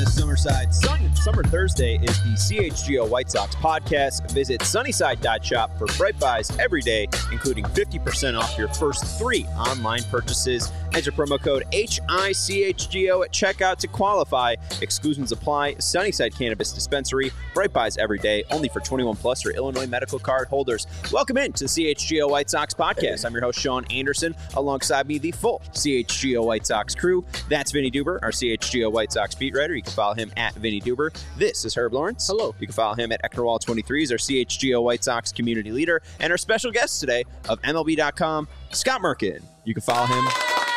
Summerside. Summer Thursday is the CHGO White Sox podcast. Visit sunnyside.shop for bright buys every day, including 50% off your first 3 online purchases. Enter promo code HICHGO at checkout to qualify. Exclusions apply. Sunnyside Cannabis Dispensary. Bright buys every day, only for 21 plus or Illinois medical card holders. Welcome in to the CHGO White Sox podcast. I'm your host, Sean Anderson. Alongside me, the full CHGO White Sox crew. That's Vinny Duber, our CHGO White Sox beat writer. You can follow him at Vinny Duber. This is Herb Lawrence. Hello. You can follow him at Eckerwall23. He's our CHGO White Sox community leader. And our special guest today of MLB.com, Scott Merkin. You can follow him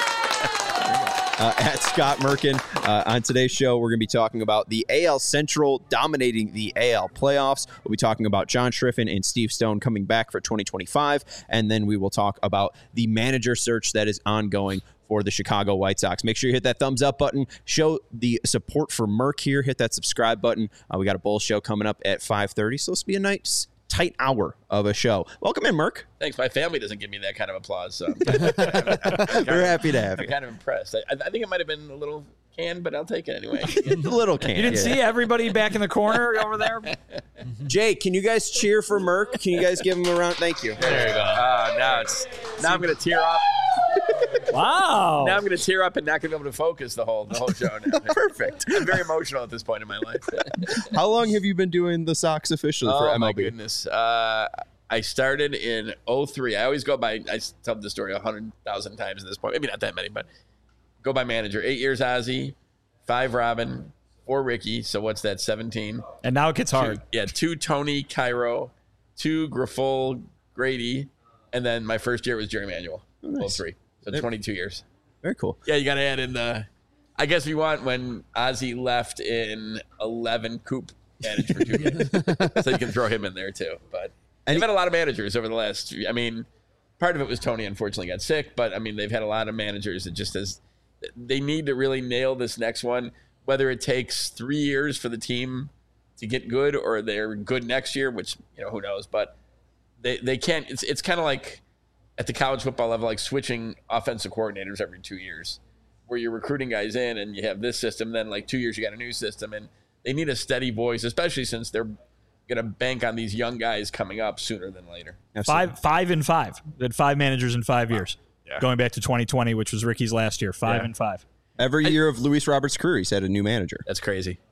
at Scott Merkin. On today's show, we're going to be talking about the AL Central dominating the AL playoffs. We'll be talking about John Schriffen and Steve Stone coming back for 2025. And then we will talk about the manager search that is ongoing for the Chicago White Sox. Make sure you hit that thumbs up button. Show the support for Merk here. Hit that subscribe button. We got a Bulls show coming up at 5:30. So this will be a nice, tight hour of a show. Welcome in, Merk. Thanks. My family doesn't give me that kind of applause, so We're happy to have you. I'm kind of impressed. I think it might have been a little canned, but I'll take it anyway. A little can. You didn't see everybody back in the corner over there? Jay, can you guys cheer for Merk? Can you guys give him a round? Thank you. There you go. Now I'm going to tear up. Wow. Now I'm going to tear up and not going to be able to focus the whole show now. Perfect. I'm very emotional at this point in my life. How long have you been doing the Sox officially for MLB? Oh, my goodness. I started in 2003. I always go by, I tell the story 100,000 times at this point. Maybe not that many, but go by manager. 8 years Ozzie, 5 Robin, 4 Ricky. So what's that, 17? And now it gets hard. 2 Tony Cairo, 2 Grifol Grady, and then my first year was Jerry Manuel. Nice. 03. So 22 years. Very cool. Yeah, you got to add in I guess we want when Ozzie left in 11, Coop managed for 2 years. So you can throw him in there too. But they've had a lot of managers over the last, part of it was Tony unfortunately got sick, but they've had a lot of managers that just they need to really nail this next one, whether it takes 3 years for the team to get good or they're good next year, which, who knows, but they can't, it's kind of like at the college football level, like switching offensive coordinators every 2 years, where you're recruiting guys in and you have this system, then like 2 years you got a new system, and they need a steady voice, especially since they're going to bank on these young guys coming up sooner than later. Absolutely. 5 and 5. They had 5 managers in 5 years. Yeah. Going back to 2020, which was Ricky's last year. 5 and 5. Every year of Luis Roberts' career, he's had a new manager. That's crazy.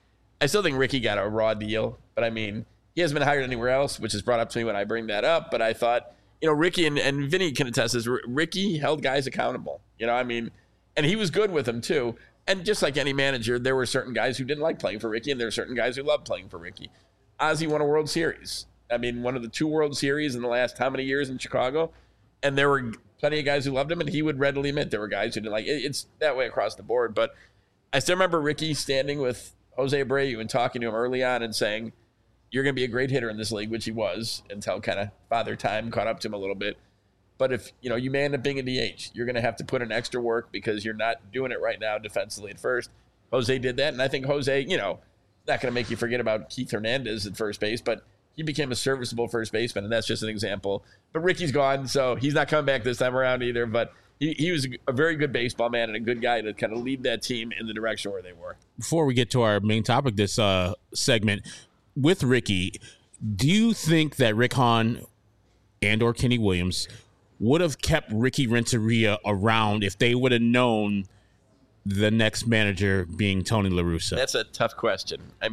I still think Ricky got a raw deal, but he hasn't been hired anywhere else, which is brought up to me when I bring that up. But I thought, Ricky and Vinny can attest this. Ricky held guys accountable, and he was good with them too. And just like any manager, there were certain guys who didn't like playing for Ricky, and there were certain guys who loved playing for Ricky. Ozzie won a World Series. One of the 2 World Series in the last how many years in Chicago? And there were plenty of guys who loved him, and he would readily admit there were guys who didn't like it. It's that way across the board. But I still remember Ricky standing with Jose Abreu and talking to him early on and saying, you're going to be a great hitter in this league, which he was until kind of Father Time caught up to him a little bit. But if, you may end up being a DH, you're going to have to put in extra work because you're not doing it right now defensively at first. Jose did that, and I think Jose, not going to make you forget about Keith Hernandez at first base, but he became a serviceable first baseman, and that's just an example. But Ricky's gone, so he's not coming back this time around either, but he was a very good baseball man and a good guy to kind of lead that team in the direction where they were. Before we get to our main topic this segment, with Ricky, do you think that Rick Hahn and or Kenny Williams would have kept Ricky Renteria around if they would have known the next manager being Tony La Russa? That's a tough question. I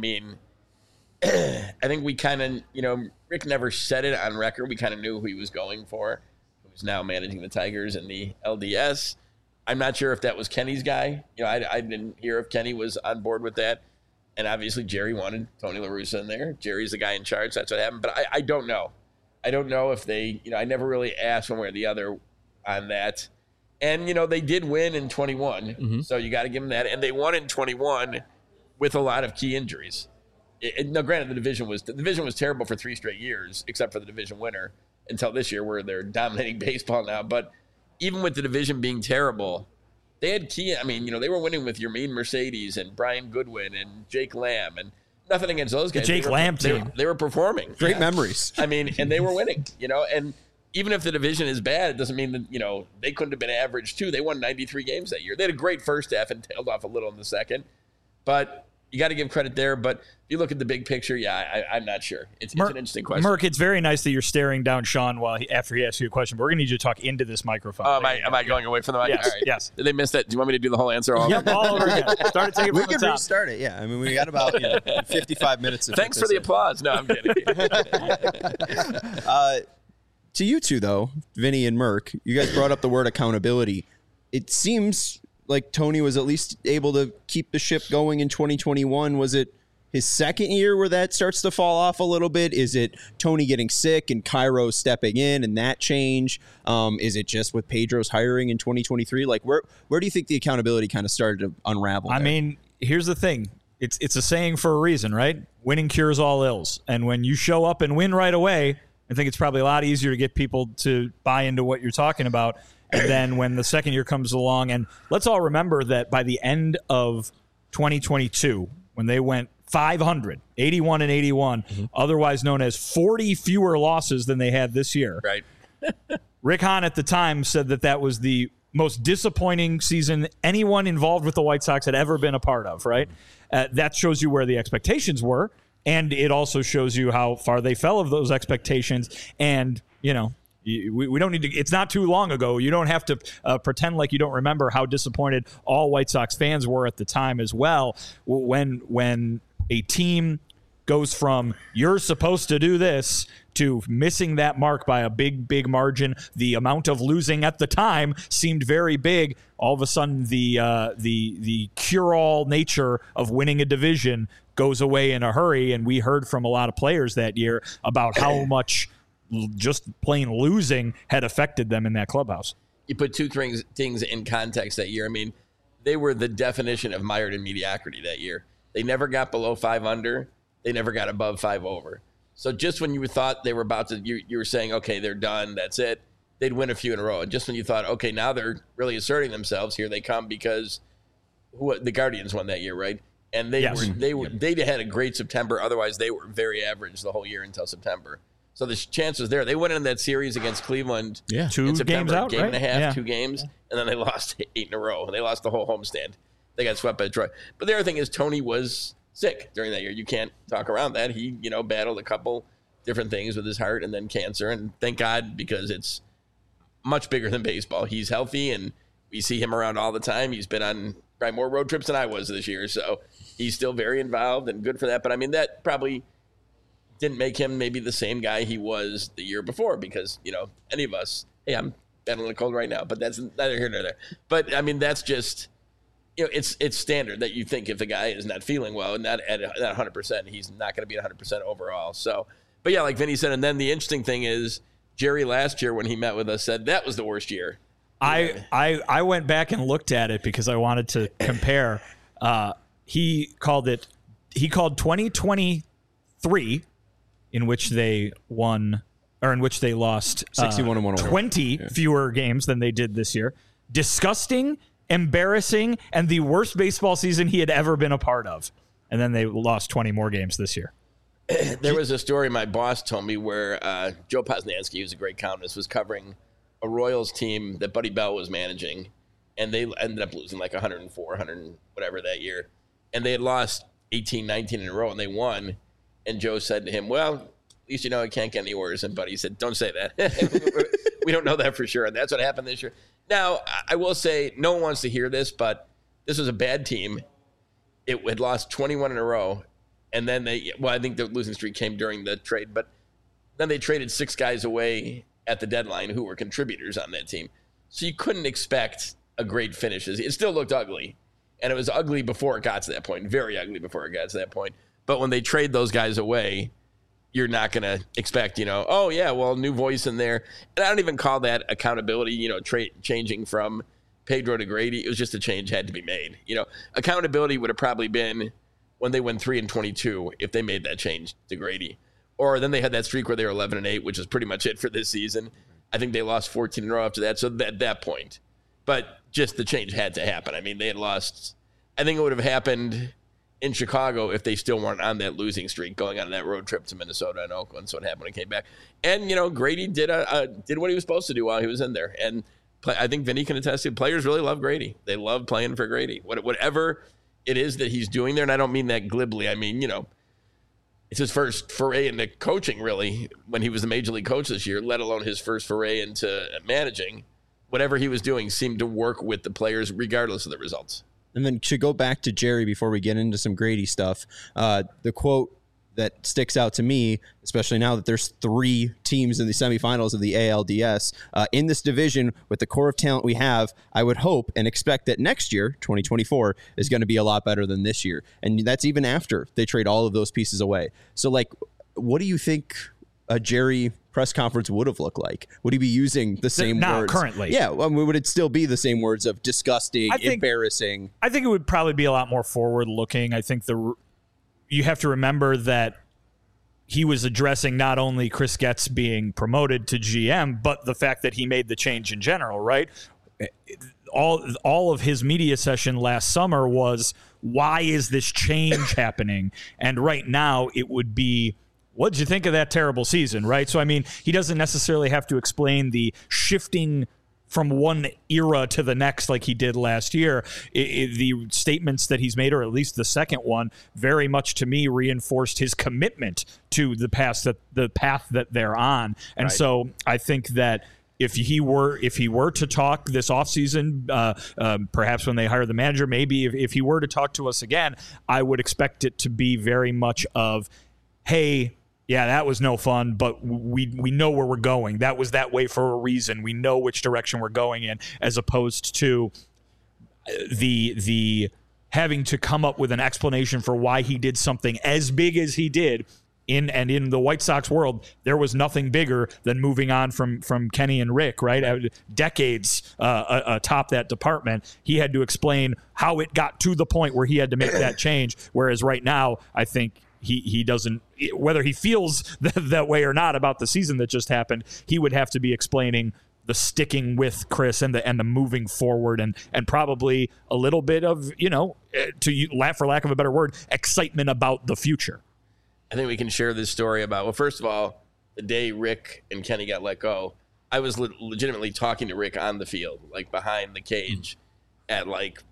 think we kind of, Rick never said it on record. We kind of knew who he was going for, who's now managing the Tigers in the LDS. I'm not sure if that was Kenny's guy. I didn't hear if Kenny was on board with that. And obviously Jerry wanted Tony La Russa in there. Jerry's the guy in charge. That's what happened. But I don't know. I don't know if they, I never really asked one way or the other on that. And, they did win in 21. Mm-hmm. So you got to give them that. And they won in 21 with a lot of key injuries. Now, granted, the division was terrible for 3 straight years, except for the division winner until this year where they're dominating baseball now. But even with the division being terrible, they had key. They were winning with Yermín Mercedes and Brian Goodwin and Jake Lamb, and nothing against those guys. The Jake Lamb team. They were performing. Great memories. And they were winning, and even if the division is bad, it doesn't mean that, they couldn't have been average too. They won 93 games that year. They had a great first half and tailed off a little in the second. But you got to give credit there. But if you look at the big picture, I'm not sure. It's an interesting question. Merck, it's very nice that you're staring down Sean after he asks you a question, but we're going to need you to talk into this microphone. Oh, am I going away from the mic? Yes, all right. yes. Did they miss that? Do you want me to do the whole answer all over? Yep, all over again. Start taking We can restart it. Yeah, I mean, we got about 55 minutes. Thanks for the applause. No, I'm kidding. To you two, though, Vinny and Merck, you guys brought up the word accountability. It seems like Tony was at least able to keep the ship going in 2021. Was it his second year where that starts to fall off a little bit? Is it Tony getting sick and Cairo stepping in and that change? Is it just with Pedro's hiring in 2023? Like, where do you think the accountability kind of started to unravel? I mean, here's the thing. It's a saying for a reason, right? Winning cures all ills. And when you show up and win right away, I think it's probably a lot easier to get people to buy into what you're talking about. And then when the second year comes along, and let's all remember that by the end of 2022, when they went 500, 81 and 81, otherwise known as 40 fewer losses than they had this year. Right. Rick Hahn at the time said that was the most disappointing season anyone involved with the White Sox had ever been a part of, right? That shows you where the expectations were. And it also shows you how far they fell of those expectations. And, we don't need to, it's not too long ago. You don't have to pretend like you don't remember how disappointed all White Sox fans were at the time as well. When a team goes from you're supposed to do this to missing that mark by a big margin, the amount of losing at the time seemed very big. All of a sudden, the cure-all nature of winning a division goes away in a hurry, and we heard from a lot of players that year about how much just plain losing had affected them in that clubhouse. You put two things in context that year. I mean, they were the definition of mired in mediocrity that year. They never got below 5 under. They never got above 5 over. So just when you thought they were about to, you were saying, okay, they're done, that's it, they'd win a few in a row. And just when you thought, okay, now they're really asserting themselves, here they come, because the Guardians won that year, right? And they had a great September. Otherwise, they were very average the whole year until September. So the chance was there. They went in that series against Cleveland. Yeah, in September, games out, game right? and a half, yeah. 2 games, and then they lost 8 in a row. And they lost the whole homestand. They got swept by Detroit. But the other thing is Tony was sick during that year. You can't talk around that. He, battled a couple different things with his heart and then cancer. And thank God, because it's much bigger than baseball. He's healthy, and we see him around all the time. He's been on probably more road trips than I was this year. So he's still very involved and good for that. But, I mean, that probably didn't make him maybe the same guy he was the year before, because, any of us, hey, I'm battling a cold right now, but that's neither here nor there. But, I mean, that's just, it's standard that you think if a guy is not feeling well and not at 100%, he's not going to be at 100% overall. So, but yeah, like Vinny said, and then the interesting thing is Jerry last year when he met with us said that was the worst year. I went back and looked at it because I wanted to compare. He called 2023, in which they won, or in which they lost 61 and 101. 20 fewer games than they did this year. Disgusting, embarrassing, and the worst baseball season he had ever been a part of. And then they lost 20 more games this year. There was a story my boss told me where Joe Posnanski, who's a great columnist, was covering a Royals team that Buddy Bell was managing, and they ended up losing like 104, 100 whatever that year. And they had lost 18, 19 in a row, and they won. And Joe said to him, well, at least it can't get any worse. And Buddy said, don't say that. We don't know that for sure. And that's what happened this year. Now, I will say, no one wants to hear this, but this was a bad team. It had lost 21 in a row. And then I think the losing streak came during the trade, but then they traded 6 guys away at the deadline who were contributors on that team. So you couldn't expect a great finish. It still looked ugly. And it was ugly before it got to that point, very ugly before it got to that point. But when they trade those guys away, you're not going to expect, oh, yeah, well, new voice in there. And I don't even call that accountability, changing from Pedro to Grady. It was just a change had to be made. Accountability would have probably been when they went 3-22 if they made that change to Grady. Or then they had that streak where they were 11-8, which is pretty much it for this season. I think they lost 14 in a row after that. So at that point. But just the change had to happen. I mean, they had lost. I think it would have happened in Chicago if they still weren't on that losing streak going on that road trip to Minnesota and Oakland. So it happened when he came back. And, Grady did what he was supposed to do while he was in there. And I think Vinny can attest to, players really love Grady. They love playing for Grady. Whatever it is that he's doing there. And I don't mean that glibly. I mean, it's his first foray into coaching, really, when he was the major league coach this year, let alone his first foray into managing. Whatever he was doing seemed to work with the players regardless of the results. And then to go back to Jerry before we get into some Grady stuff, the quote that sticks out to me, especially now that there's 3 teams in the semifinals of the ALDS, in this division with the core of talent we have, I would hope and expect that next year, 2024, is going to be a lot better than this year. And that's even after they trade all of those pieces away. So, what do you think a Jerry press conference would have looked like? Would he be using the same words? Currently? Yeah. Would it still be the same words of disgusting, embarrassing? I think it would probably be a lot more forward-looking. I think you have to remember that he was addressing not only Chris Getz being promoted to GM, but the fact that he made the change in general, right? All of his media session last summer was, why is this change happening? And right now it would be, what did you think of that terrible season, right? So, I mean, he doesn't necessarily have to explain the shifting from one era to the next like he did last year. The statements that he's made, or at least the second one, very much to me reinforced his commitment to the path that they're on. And right. So I think that if he were to talk this offseason, perhaps when they hire the manager, maybe if he were to talk to us again, I would expect it to be very much of, hey, yeah, that was no fun, but we know where we're going. That was that way for a reason. We know which direction we're going in, as opposed to the having to come up with an explanation for why he did something as big as he did. In the White Sox world, there was nothing bigger than moving on from Kenny and Rick, right? Decades atop that department. He had to explain how it got to the point where he had to make that change, whereas right now, I think he doesn't, whether he feels that way or not about the season that just happened, he would have to be explaining the sticking with Chris and the moving forward and probably a little bit of, for lack of a better word, excitement about the future. I think we can share this story about, well, first of all, the day Rick and Kenny got let go, I was legitimately talking to Rick on the field, like behind the cage at like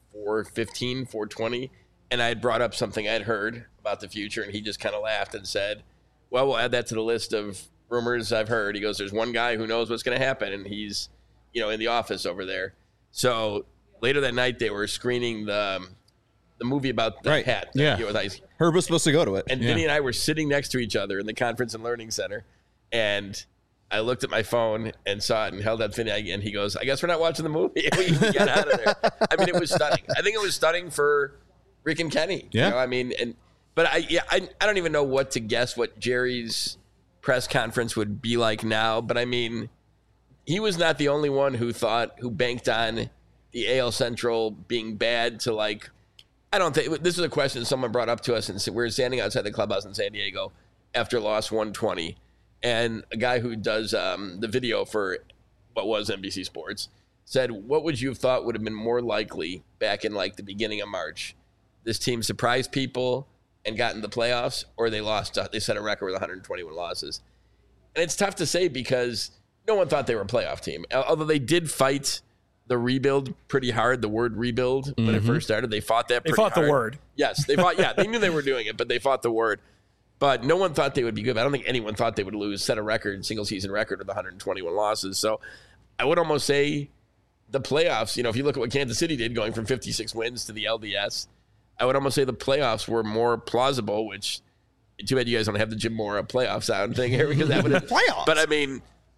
4:15, 4:20. And I had brought up something I'd heard about the future, and he just kind of laughed and said, well, we'll add that to the list of rumors I've heard. He goes, there's one guy who knows what's going to happen, and he's, in the office over there. So later that night, they were screening the movie about the hat. Yeah. Herb was supposed to go to it. And Vinny and I were sitting next to each other in the conference and learning center, and I looked at my phone and saw it and held up Vinny, and he goes, I guess we're not watching the movie. We can get out of there. I mean, it was stunning. I think it was stunning for Rick and Kenny. Yeah. But I don't even know what to guess what Jerry's press conference would be like now. But I mean, he was not the only one who banked on the AL Central being bad to like, I don't think, this is a question someone brought up to us, and we were standing outside the clubhouse in San Diego after loss 120. And a guy who does the video for what was NBC Sports said, what would you have thought would have been more likely back in like the beginning of March? This team surprised people and got in the playoffs, or they set a record with 121 losses. And it's tough to say because no one thought they were a playoff team. Although they did fight the rebuild pretty hard, the word rebuild, when it first started. They fought that pretty hard. They fought the word. Yes, they fought. Yeah, they knew they were doing it, but they fought the word. But no one thought they would be good. I don't think anyone thought they would set a single season record with 121 losses. So I would almost say the playoffs, if you look at what Kansas City did going from 56 wins to the LDS, I would almost say the playoffs were more plausible, which too bad you guys don't have the Jim Mora playoff sound thing here because that would have playoffs. But I mean,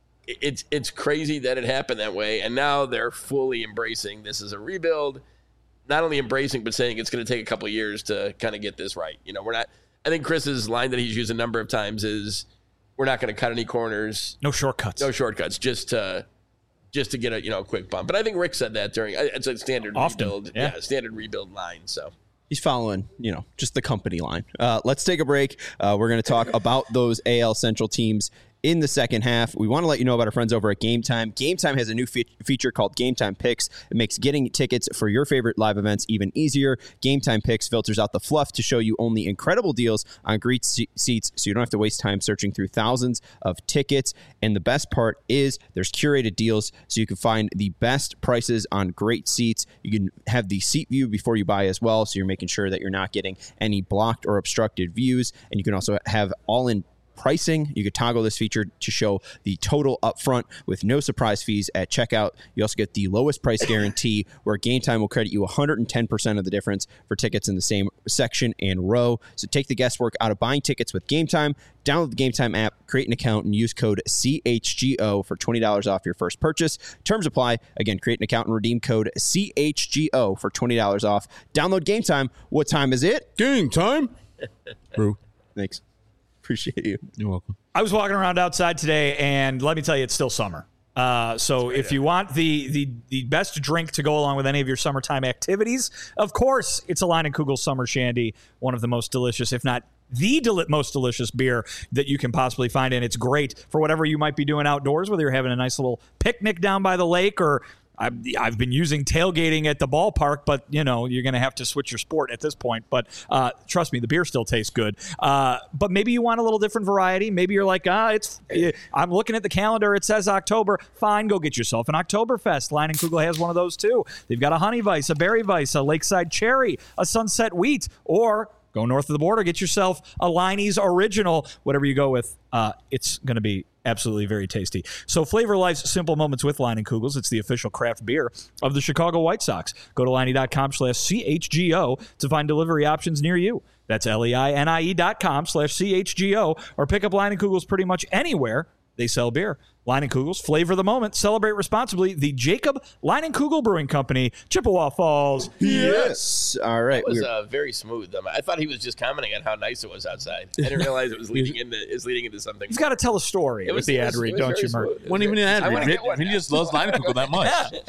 it's crazy that it happened that way. And now they're fully embracing this as a rebuild, not only embracing, but saying it's going to take a couple of years to kind of get this right. I think Chris's line that he's used a number of times is, we're not going to cut any corners. No shortcuts. Just to get a quick bump. But I think Rick said that during, it's a standard rebuild. Yeah, standard rebuild line. So he's following, just the company line. Let's take a break. We're going to talk about those AL Central teams in the second half. We want to let you know about our friends over at Game Time. Game Time has a new feature called Game Time Picks. It makes getting tickets for your favorite live events even easier. Game Time Picks filters out the fluff to show you only incredible deals on great seats, so you don't have to waste time searching through thousands of tickets. And the best part is there's curated deals, so you can find the best prices on great seats. You can have the seat view before you buy as well, so you're making sure that you're not getting any blocked or obstructed views. And you can also have all-in pricing. You could toggle this feature to show the total upfront with no surprise fees at checkout. You also get the lowest price guarantee, where Game Time will credit you 110% of the difference for tickets in the same section and row. So take the guesswork out of buying tickets with Game Time. Download the Game Time app, create an account, and use code CHGO for $20 off your first purchase. Terms apply. Again, create an account and redeem code CHGO for $20 off. Download Game Time. What time is it? Game time. Brew. Thanks. Appreciate you. You're welcome. I was walking around outside today, and let me tell you, it's still summer. So if you want the best drink to go along with any of your summertime activities, of course, it's a Leinenkugel Summer Shandy, one of the most delicious, if not the most delicious beer that you can possibly find. And it's great for whatever you might be doing outdoors, whether you're having a nice little picnic down by the lake, or I've been using tailgating at the ballpark, but you're going to have to switch your sport at this point. But trust me, the beer still tastes good. But maybe you want a little different variety. Maybe you're like, I'm looking at the calendar. It says October. Fine, go get yourself an Oktoberfest. Leinenkugel has one of those too. They've got a Honey Weiss, a Berry Weiss, a Lakeside Cherry, a Sunset Wheat, or go north of the border, get yourself a Leinie's Original. Whatever you go with, it's going to be absolutely very tasty. So flavor life's simple moments with Leinenkugels. It's the official craft beer of the Chicago White Sox. Go to Leinie.com/CHGO to find delivery options near you. That's LEINIE.com/CHGO, or pick up Leinenkugels pretty much anywhere they sell beer. Leinenkugels, flavor the moment, celebrate responsibly. The Jacob Leinenkugel Brewing Company, Chippewa Falls. Yes. All right. It was very smooth. I thought he was just commenting on how nice it was outside. I didn't realize it was leading into something. He's got to tell a story with the ad read, don't you, Mark? Wasn't even an ad read. Vinny just loves Leinenkugel that much.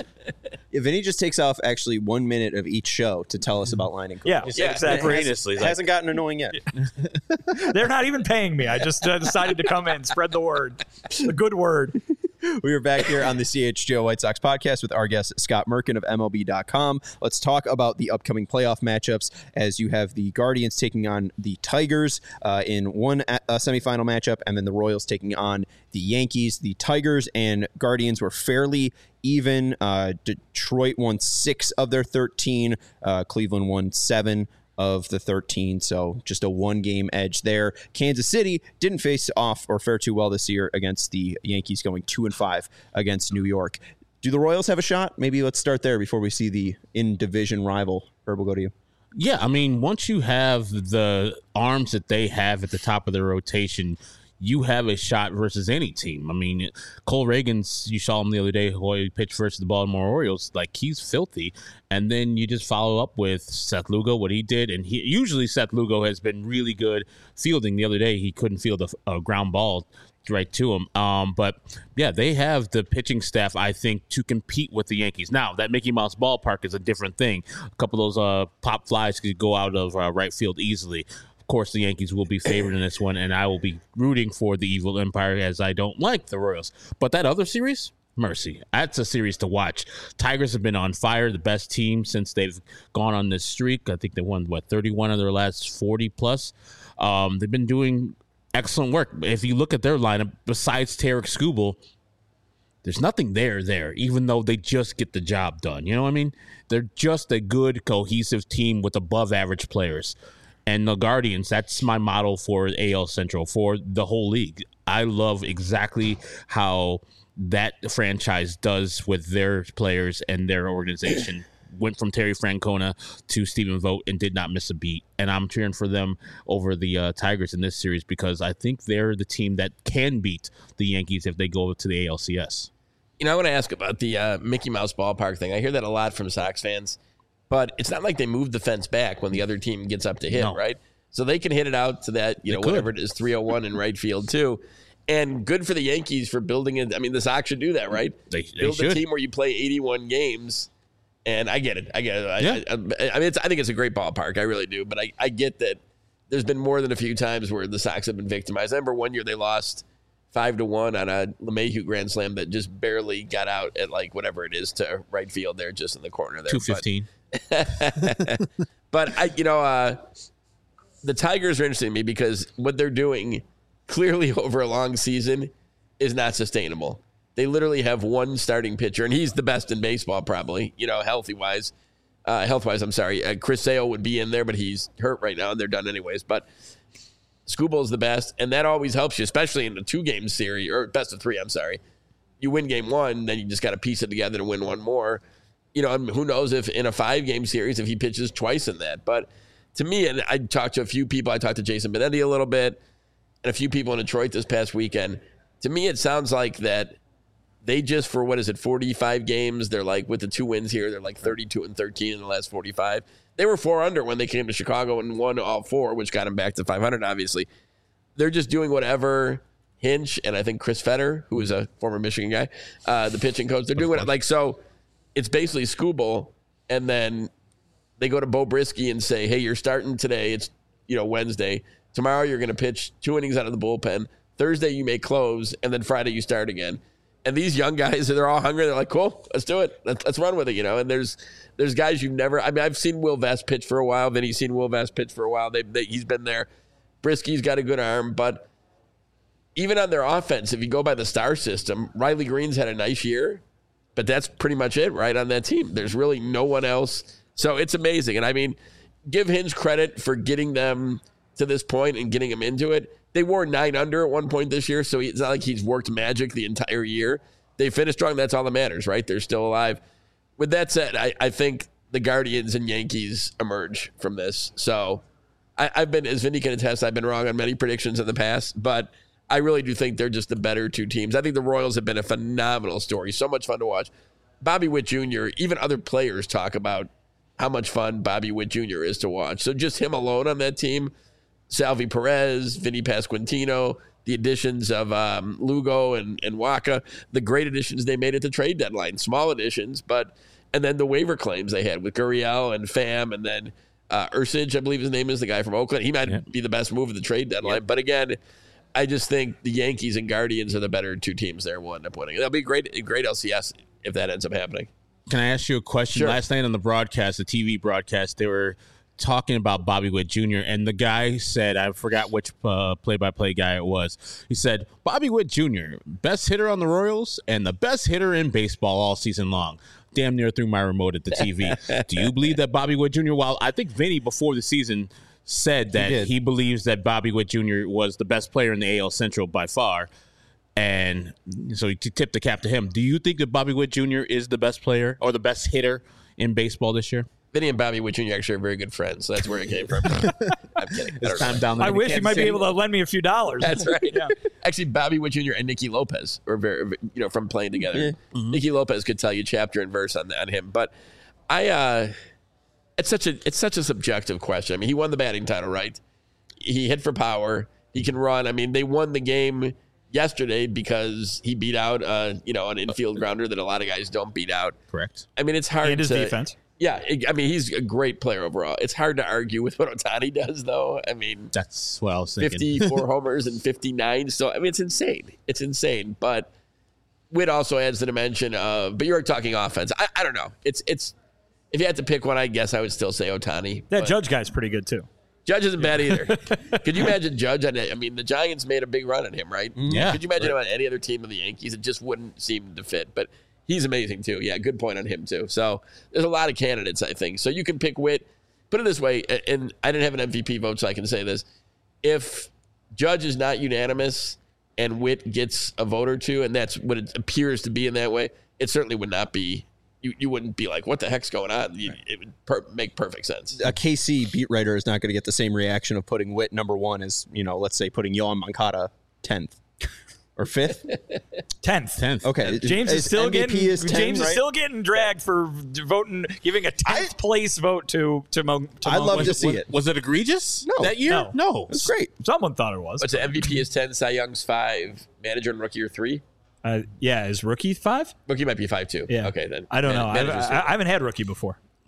If Vinny just takes off actually 1 minute of each show to tell us about Leinenkugel. Yeah, exactly. It hasn't gotten annoying yet. They're not even paying me. I just decided to come in, spread the word, the good word. We are back here on the CHGO White Sox podcast with our guest, Scott Merkin of MLB.com. Let's talk about the upcoming playoff matchups, as you have the Guardians taking on the Tigers in one semifinal matchup, and then the Royals taking on the Yankees. The Tigers and Guardians were fairly even. Detroit won 6 of their 13. Cleveland won 7 of the 13, so just a 1-game edge there. Kansas City didn't face off or fare too well this year against the Yankees, going 2-5 against New York. Do the Royals have a shot? Maybe let's start there before we see the in-division rival. Herb, we'll go to you. Yeah, I mean, once you have the arms that they have at the top of their rotation, you have a shot versus any team. I mean, Cole Reagans, you saw him the other day, who he pitched versus the Baltimore Orioles. Like, he's filthy. And then you just follow up with Seth Lugo, what he did. And usually Seth Lugo has been really good fielding. The other day, he couldn't field a ground ball right to him. But, yeah, they have the pitching staff, I think, to compete with the Yankees. Now, that Mickey Mouse ballpark is a different thing. A couple of those pop flies could go out of right field easily. Of course, the Yankees will be favored in this one, and I will be rooting for the Evil Empire, as I don't like the Royals. But that other series, mercy. That's a series to watch. Tigers have been on fire, the best team since they've gone on this streak. I think they won, 31 of their last 40-plus. They've been doing excellent work. If you look at their lineup, besides Tarek Skubal, there's nothing there, even though they just get the job done. You know what I mean? They're just a good, cohesive team with above-average players. And the Guardians, that's my model for AL Central, for the whole league. I love exactly how that franchise does with their players and their organization. Went from Terry Francona to Stephen Vogt and did not miss a beat. And I'm cheering for them over the Tigers in this series, because I think they're the team that can beat the Yankees if they go to the ALCS. I want to ask about the Mickey Mouse ballpark thing. I hear that a lot from Sox fans. But it's not like they move the fence back when the other team gets up to hit, right? So they can hit it out to that, whatever it is, 301 in right field too. And good for the Yankees for building it. I mean, the Sox should do that, right? They build should. a team where you play 81 games. And I get it. Yeah. I think it's a great ballpark. I really do. But I get that there's been more than a few times where the Sox have been victimized. I remember one year they lost 5-1 on a LeMahieu grand slam that just barely got out at like whatever it is to right field there, just in the corner there. 215. But the Tigers are interesting to me because what they're doing clearly over a long season is not sustainable. They literally have one starting pitcher, and he's the best in baseball probably, health-wise, I'm sorry. Chris Sale would be in there, but he's hurt right now, and they're done anyways. But Skubal's the best, and that always helps you, especially in a 2-game series, or best of 3, I'm sorry. You win game 1, then you just got to piece it together to win one more. And who knows if in a 5-game series, if he pitches twice in that. But to me, and I talked to a few people, I talked to Jason Benetti a little bit, and a few people in Detroit this past weekend. To me, it sounds like that they just, for 45 games, they're like, with the 2 wins here, they're like 32-13 in the last 45. They were 4 under when they came to Chicago and won all 4, which got them back to 500, obviously. They're just doing whatever Hinch and I think Chris Fetter, who is a former Michigan guy, the pitching coach, they're doing it. So it's basically Skubal, and then they go to Bo Brisky and say, hey, you're starting today. It's, Wednesday. Tomorrow you're going to pitch 2 innings out of the bullpen. Thursday you may close, and then Friday you start again. And these young guys, they're all hungry. They're like, cool, let's do it. Let's run with it, And there's guys you've never – I've seen Will Vest pitch for a while. Vinny's seen Will Vest pitch for a while. He's been there. Brisky's got a good arm. But even on their offense, if you go by the star system, Riley Green's had a nice year. But that's pretty much it, right, on that team. There's really no one else. So it's amazing. And, give Hinch credit for getting them to this point and getting them into it. They wore 9 under at one point this year, so it's not like he's worked magic the entire year. They finished strong. That's all that matters, right? They're still alive. With that said, I think the Guardians and Yankees emerge from this. So I've been, as Vinny can attest, I've been wrong on many predictions in the past, but I really do think they're just the better 2 teams. I think the Royals have been a phenomenal story. So much fun to watch. Bobby Witt Jr., even other players talk about how much fun Bobby Witt Jr. is to watch. So just him alone on that team, Salvi Perez, Vinny Pasquantino, the additions of Lugo and Waka, the great additions they made at the trade deadline. Small additions, and then the waiver claims they had with Gurriel and Pham, and then Ursich, I believe his name is, the guy from Oakland. He might be the best move at the trade deadline. Yep. But again, I just think the Yankees and Guardians are the better 2 teams there. Will end up winning. That'll be a great LCS if that ends up happening. Can I ask you a question? Sure. Last night on the broadcast, the TV broadcast, they were talking about Bobby Witt Jr., and the guy said, I forgot which play-by-play guy it was. He said, Bobby Witt Jr., best hitter on the Royals and the best hitter in baseball all season long. Damn near threw my remote at the TV. Do you believe that Bobby Witt Jr., while I think Vinny before the season said that he believes that Bobby Witt Jr. was the best player in the AL Central by far, and so he tipped the cap to him. Do you think that Bobby Witt Jr. is the best player or the best hitter in baseball this year? Vinny and Bobby Witt Jr. actually are very good friends, so that's where it came from. I'm kidding. It's time down there. I wish he might be able to lend me a few dollars. That's right. Yeah. Actually, Bobby Witt Jr. and Nicky Lopez were very, from playing together. Yeah. Mm-hmm. Nicky Lopez could tell you chapter and verse on him. But it's such a subjective question. He won the batting title, right? He hit for power. He can run. They won the game yesterday because he beat out an infield grounder that a lot of guys don't beat out. Correct. It's hard and his defense. Yeah, he's a great player overall. It's hard to argue with what Ohtani does, though. That's what I was thinking. 54 homers and 59. So, it's insane. It's insane. But Witt also adds the dimension of, but you're talking offense. I don't know. It's if you had to pick one, I guess I would still say Ohtani. That Judge guy's pretty good, too. Judge isn't bad either. Could you imagine Judge? The Giants made a big run at him, right? Yeah. Could you imagine him on any other team of the Yankees? It just wouldn't seem to fit. But he's amazing, too. Yeah, good point on him, too. So there's a lot of candidates, I think. So you can pick Witt. Put it this way, and I didn't have an MVP vote, so I can say this. If Judge is not unanimous and Witt gets a vote or two, and that's what it appears to be in that way, it certainly would not be. You wouldn't be like, what the heck's going on? It would make perfect sense. A KC beat writer is not going to get the same reaction of putting Witt number 1 as, let's say putting Yohan Moncada 10th. Or 5th? 10th. Okay. James is still getting getting dragged for voting, giving a 10th place vote to I'd love to see it. Was it egregious that year? No. It was great. Someone thought it was. What's the MVP is 10, Cy Young's 5, manager and rookie are 3? Is rookie 5? Rookie might be 5 too. Yeah. Okay, then. I don't know. I haven't had rookie before.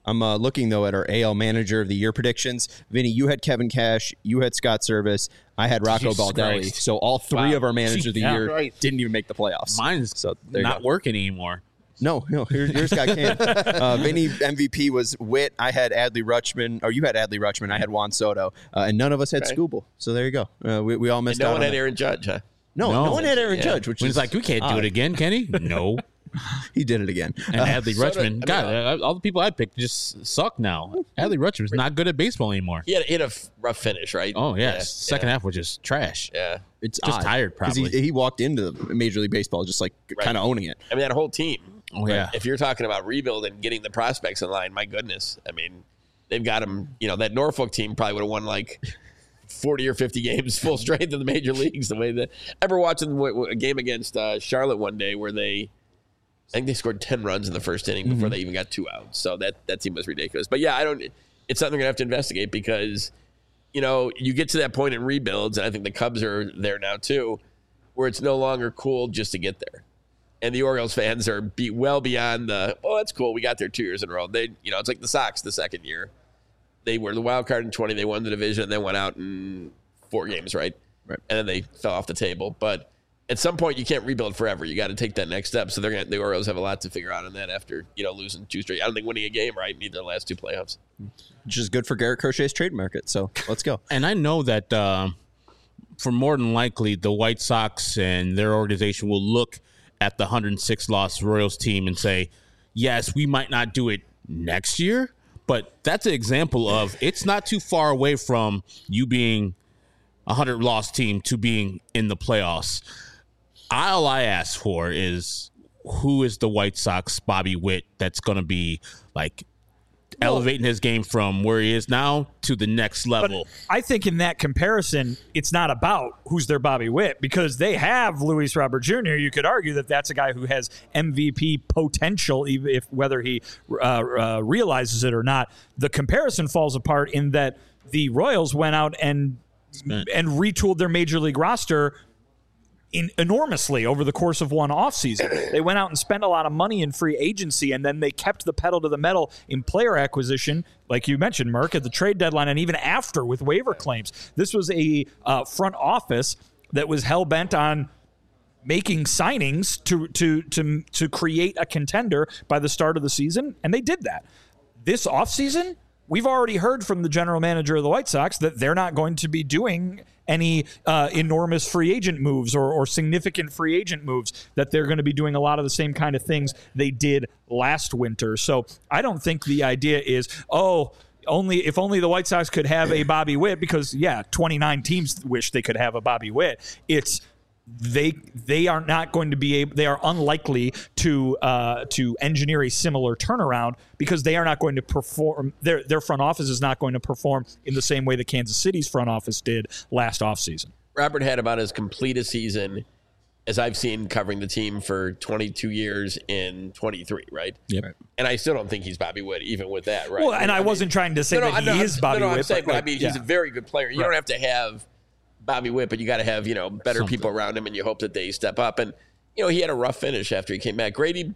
I'm looking, though, at our AL Manager of the Year predictions. Vinny, you had Kevin Cash. You had Scott Service. I had Rocco Jesus Baldelli. Christ. So all three of our Manager of the Year Christ. didn't even make the playoffs. Mine's so there you not go. working anymore. No, yours got canned. Vinny MVP was Witt. I had Adley Rutschman, or you had Adley Rutschman. I had Juan Soto, and none of us had Skubal. So there you go. We all missed And out. no one on had that. Aaron Judge, huh? No one had Aaron Judge, which When is it's like, we can't do it again, can he? No. he did it again. And Adley Soto- Rutschman, God, all the people I picked just suck now. Adley Rutschman's not good at baseball anymore. He had a rough finish, right? Oh, yes. Second half was just trash. Yeah. It's Just odd, tired, 'cause probably. he walked into Major League Baseball just like kind of owning it. I mean, that whole team. Oh, yeah. If you're talking about rebuild and getting the prospects in line, my goodness. I mean, they've got them. That Norfolk team probably would have won like 40 or 50 games full strength in the major leagues. The way that I remember watching a game against Charlotte one day where I think they scored 10 runs in the first inning before they even got 2 outs. So that team was ridiculous. But yeah, it's something they're gonna have to investigate because you get to that point in rebuilds, and I think the Cubs are there now too, where it's no longer cool just to get there. And the Orioles fans are well beyond that's cool. We got there 2 years in a row. It's like the Sox the second year. They were the wild card in 20. They won the division and then went out in 4 games, right? Right. And then they fell off the table. But at some point, you can't rebuild forever. You got to take that next step. So the Orioles have a lot to figure out on that after losing 2 straight. I don't think winning a game, right? Need their last 2 playoffs. Which is good for Garrett Crochet's trade market. So let's go. And I know that for more than likely, the White Sox and their organization will look at the 106-loss Royals team and say, yes, we might not do it next year, but that's an example of it's not too far away from you being a 100-loss team to being in the playoffs. All I ask for is who is the White Sox Bobby Witt that's going to be like elevating his game from where he is now to the next level. But I think in that comparison, it's not about who's their Bobby Witt because they have Luis Robert Jr. You could argue that that's a guy who has MVP potential, even if whether he realizes it or not. The comparison falls apart in that the Royals went out and retooled their major league roster enormously over the course of one offseason. They went out and spent a lot of money in free agency, and then they kept the pedal to the metal in player acquisition, like you mentioned, Merck, at the trade deadline and even after with waiver claims. This was a front office that was hell-bent on making signings to create a contender by the start of the season, and they did that. This offseason, we've already heard from the general manager of the White Sox that they're not going to be doing any enormous free agent moves or significant free agent moves, that they're going to be doing a lot of the same kind of things they did last winter. So I don't think the idea is, if only the White Sox could have a Bobby Witt, because, 29 teams wish they could have a Bobby Witt. It's they are not going to be able. They are unlikely to engineer a similar turnaround because they are not going to perform. Their front office is not going to perform in the same way that Kansas City's front office did last offseason. Robert had about as complete a season as I've seen covering the team for 22 years in 23, right? Yep. And I still don't think he's Bobby Witt, even with that, right? Well, and I wasn't trying to say that he is Bobby Witt. I'm saying, but I mean, he's a very good player. You don't have to have Bobby Witt, but you got to have, better people around him, and you hope that they step up. And, he had a rough finish after he came back. Grady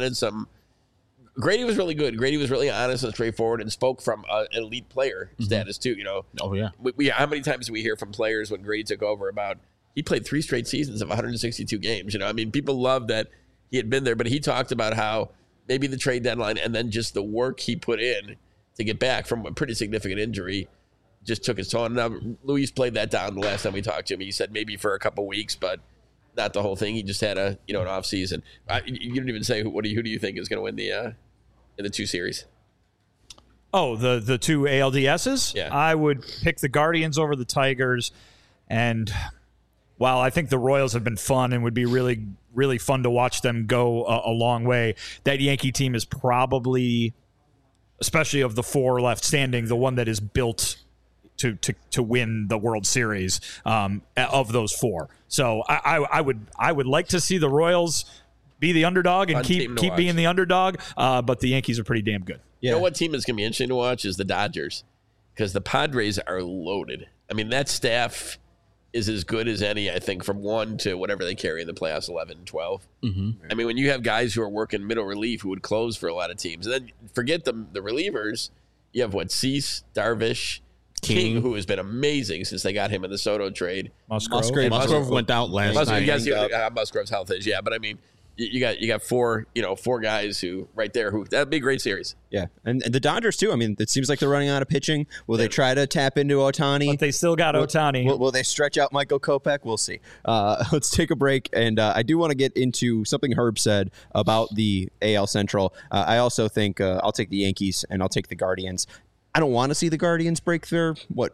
was really good. Grady was really honest and straightforward and spoke from an elite player status too, Oh, yeah. How many times do we hear from players when Grady took over about he played 3 straight seasons of 162 games? I mean, people love that he had been there, but he talked about how maybe the trade deadline and then just the work he put in to get back from a pretty significant injury just took its toll. Now, Luis played that down the last time we talked to him. He said maybe for a couple weeks, but not the whole thing. He just had an off season. You didn't even say who do you think is going to win in the 2 series? Oh, the 2 ALDSs? Yeah. I would pick the Guardians over the Tigers. And while I think the Royals have been fun and would be really, really fun to watch them go a long way, that Yankee team is probably, especially of the 4 left standing, the one that is built to win the World Series of those 4. So I would like to see the Royals be the underdog and keep being the underdog, but the Yankees are pretty damn good. Yeah. You know what team is going to be interesting to watch is the Dodgers, because the Padres are loaded. I mean, that staff is as good as any, I think, from 1 to whatever they carry in the playoffs, 11, 12. Mm-hmm. I mean, when you have guys who are working middle relief who would close for a lot of teams, and then forget the relievers, you have Cease, Darvish, King, who has been amazing since they got him in the Soto trade. Musgrove went out last night. You guys see how Musgrove's health is, yeah. But I mean, you got four guys who right there who that'd be a great series. Yeah, and the Dodgers too. I mean, it seems like they're running out of pitching. Will they try to tap into Ohtani? But they still got Ohtani. Will they stretch out Michael Kopech? We'll see. Let's take a break, and I do want to get into something Herb said about the AL Central. I also think I'll take the Yankees and I'll take the Guardians. I don't want to see the Guardians break their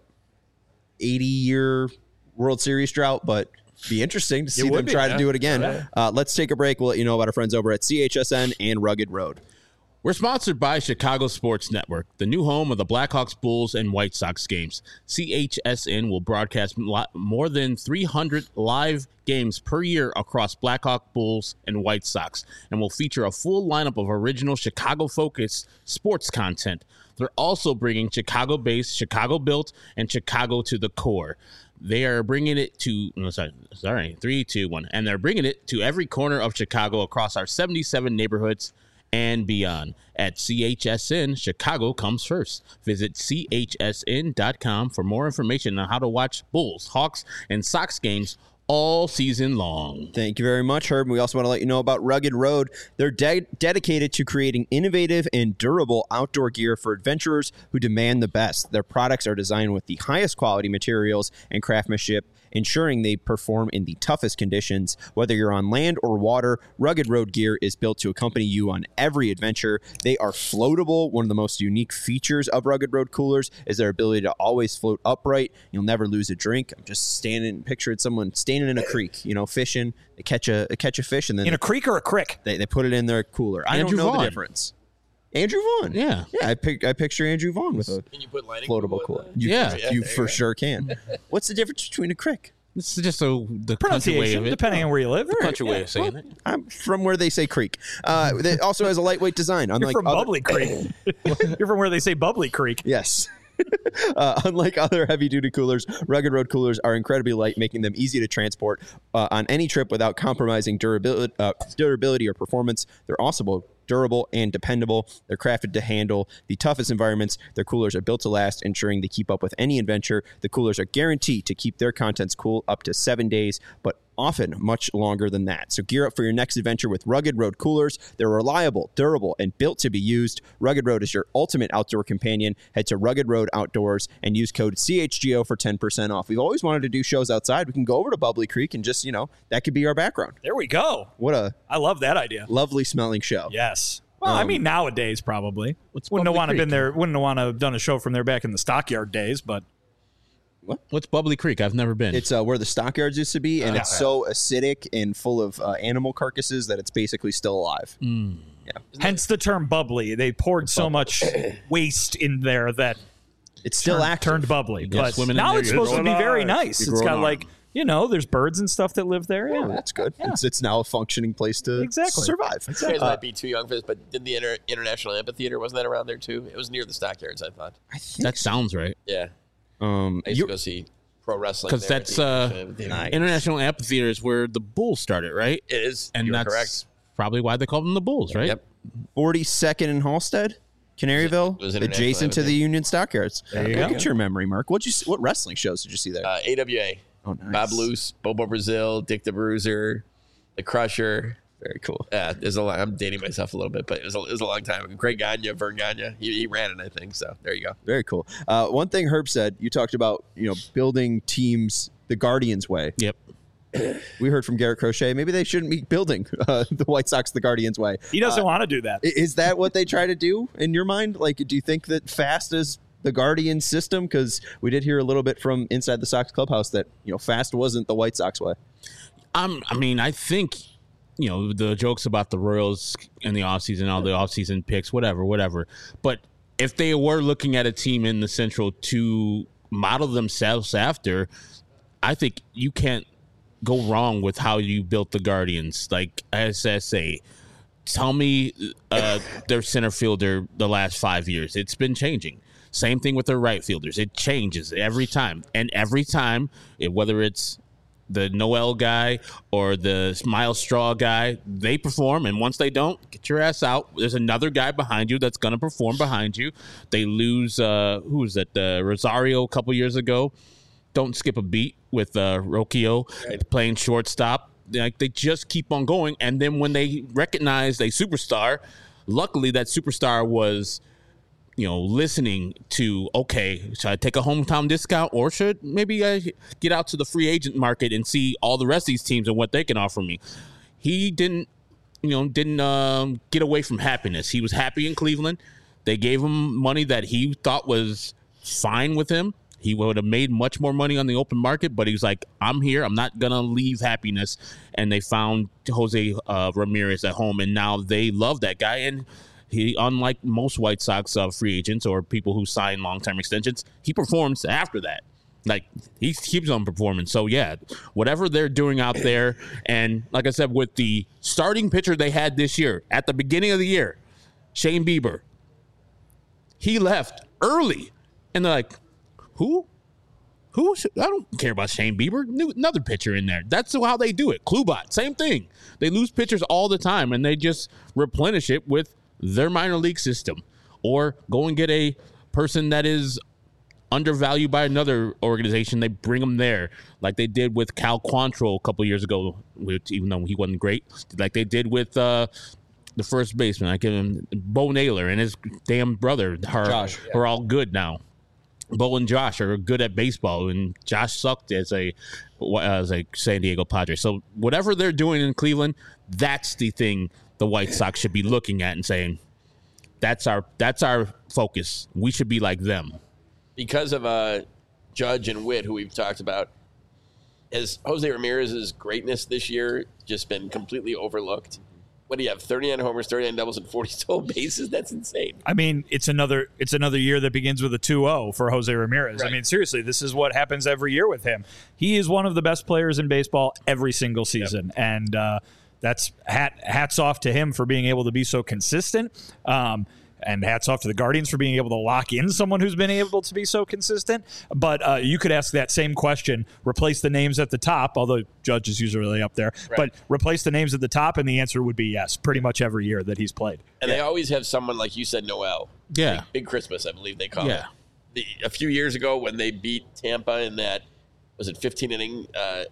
80-year World Series drought, but be interesting to see them try to do it again. Yeah. Let's take a break. We'll let you know about our friends over at CHSN and Rugged Road. We're sponsored by Chicago Sports Network, the new home of the Blackhawks, Bulls, and White Sox games. CHSN will broadcast more than 300 live games per year across Blackhawk, Bulls, and White Sox, and will feature a full lineup of original Chicago-focused sports content. They're also bringing Chicago-based, Chicago-built, and Chicago to the core. They are bringing it to, 3, 2, 1. And they're bringing it to every corner of Chicago across our 77 neighborhoods and beyond. At CHSN, Chicago comes first. Visit chsn.com for more information on how to watch Bulls, Hawks, and Sox games all season long. Thank you very much, Herb. We also want to let you know about Rugged Road. They're dedicated to creating innovative and durable outdoor gear for adventurers who demand the best. Their products are designed with the highest quality materials and craftsmanship, ensuring they perform in the toughest conditions. Whether you're on land or water, Rugged Road gear is built to accompany you on every adventure. They are floatable. One of the most unique features of Rugged Road coolers is their ability to always float upright. You'll never lose a drink. I'm just picturing someone standing in a creek, fishing. They catch a fish, and then in a creek or a crick, they put it in their cooler. I don't know the difference. Andrew Vaughn. Yeah. I picture Andrew Vaughn with a can you put floatable cooler. You for sure can. What's the difference between a crick? This is just the pronunciation, way of it. depending on where you live. The country way of saying it. I'm from where they say creek. It also has a lightweight design. You're from Bubbly Creek. You're from where they say Bubbly Creek. Yes. Unlike other heavy-duty coolers, Rugged Road coolers are incredibly light, making them easy to transport on any trip without compromising durability or performance. They're also durable and dependable. They're crafted to handle the toughest environments. Their coolers are built to last, ensuring they keep up with any adventure. The coolers are guaranteed to keep their contents cool up to 7 days, but often much longer than that. So gear up for your next adventure with Rugged Road coolers. They're reliable, durable, and built to be used. Rugged Road is your ultimate outdoor companion. Head to Rugged Road Outdoors and use code CHGO for 10% off. We've always wanted to do shows outside. We can go over to Bubbly Creek and just, that could be our background. There we go. I love that idea. Lovely smelling show. Yes. Well, I mean, nowadays probably wouldn't have want to been there. Wouldn't have want to have done a show from there back in the Stockyard days. But what's Bubbly Creek? I've never been. It's where the Stockyards used to be, and it's so acidic and full of animal carcasses that it's basically still alive. Yeah. Hence the term bubbly. They poured so much waste in there that it's still turned bubbly. But now it's supposed to be very nice. It's got there's birds and stuff that live there. Yeah, that's good. Yeah. It's now a functioning place to survive. You guys might be too young for this, but did the International Amphitheater, wasn't that around there too? It was near the Stockyards, I thought. That sounds right. Yeah. I used to go see pro wrestling because that's International Amphitheater is where the Bulls started, right? It is, and that's correct. Probably why they called them the Bulls, right? Yep. 42nd and Halstead, Canaryville, adjacent to the Union Stockyards. There you go. Get your memory, Mark. What wrestling shows did you see there? AWA. Oh, nice. Bob Luce, Bobo Brazil, Dick the Bruiser, The Crusher. Very cool. Yeah, I'm dating myself a little bit, but it was a long time ago. Craig Gagne, Vern Gagne, he ran it, I think. So there you go. Very cool. One thing Herb said, you talked about building teams the Guardians way. Yep. We heard from Garrett Crochet. Maybe they shouldn't be building the White Sox the Guardians way. He doesn't want to do that. Is that what they try to do in your mind? Like, do you think that Fast is the Guardian system? Because we did hear a little bit from inside the Sox clubhouse that Fast wasn't the White Sox way. I think the jokes about the Royals in the offseason, all the offseason picks, whatever. But if they were looking at a team in the Central to model themselves after, I think you can't go wrong with how you built the Guardians. Like SSA, tell me their center fielder the last 5 years. It's been changing. Same thing with their right fielders. It changes every time. And every time, whether it's the Noel guy or the Miles Straw guy, they perform. And once they don't, get your ass out. There's another guy behind you that's going to perform behind you. They lose, who was it? Rosario a couple years ago. Don't skip a beat with Rocchio playing shortstop. Like, they just keep on going. And then when they recognize a superstar, luckily that superstar was, listening to, okay, should I take a hometown discount, or should maybe I get out to the free agent market and see all the rest of these teams and what they can offer me? He didn't get away from happiness. He was happy in Cleveland. They gave him money that he thought was fine with him. He would have made much more money on the open market, but he's like, I'm here. I'm not going to leave happiness. And they found Jose Ramirez at home, and now they love that guy. And he, unlike most White Sox free agents or people who sign long-term extensions, he performs after that. Like, he keeps on performing. So, yeah, whatever they're doing out there, and like I said, with the starting pitcher they had this year, at the beginning of the year, Shane Bieber, he left early. And they're like, Who? I don't care about Shane Bieber. Another pitcher in there. That's how they do it. Klubat, same thing. They lose pitchers all the time, and they just replenish it with their minor league system, or go and get a person that is undervalued by another organization. They bring them there, like they did with Cal Quantrill a couple years ago, even though he wasn't great, like they did with the first baseman. I give him Bo Naylor and his damn brother Josh, are all good now. Bo and Josh are good at baseball, and Josh sucked as a San Diego Padre. So whatever they're doing in Cleveland, that's the thing the White Sox should be looking at and saying, that's our focus. We should be like them. Because of Judge and Witt, who we've talked about, has Jose Ramirez's greatness this year just been completely overlooked? What do you have? 39 homers, 39 doubles, and 40 stolen bases? That's insane. I mean, it's another year that begins with a 2-0 for Jose Ramirez. Right. I mean, seriously, this is what happens every year with him. He is one of the best players in baseball every single season. Yep. And that's hats off to him for being able to be so consistent. And hats off to the Guardians for being able to lock in someone who's been able to be so consistent. But you could ask that same question, replace the names at the top, although Judge is usually up there, right. But replace the names at the top, and the answer would be yes, pretty much every year that he's played. And they always have someone, like you said, Noel. Yeah. Big Christmas, I believe they call it. A few years ago when they beat Tampa in that, was it 15-inning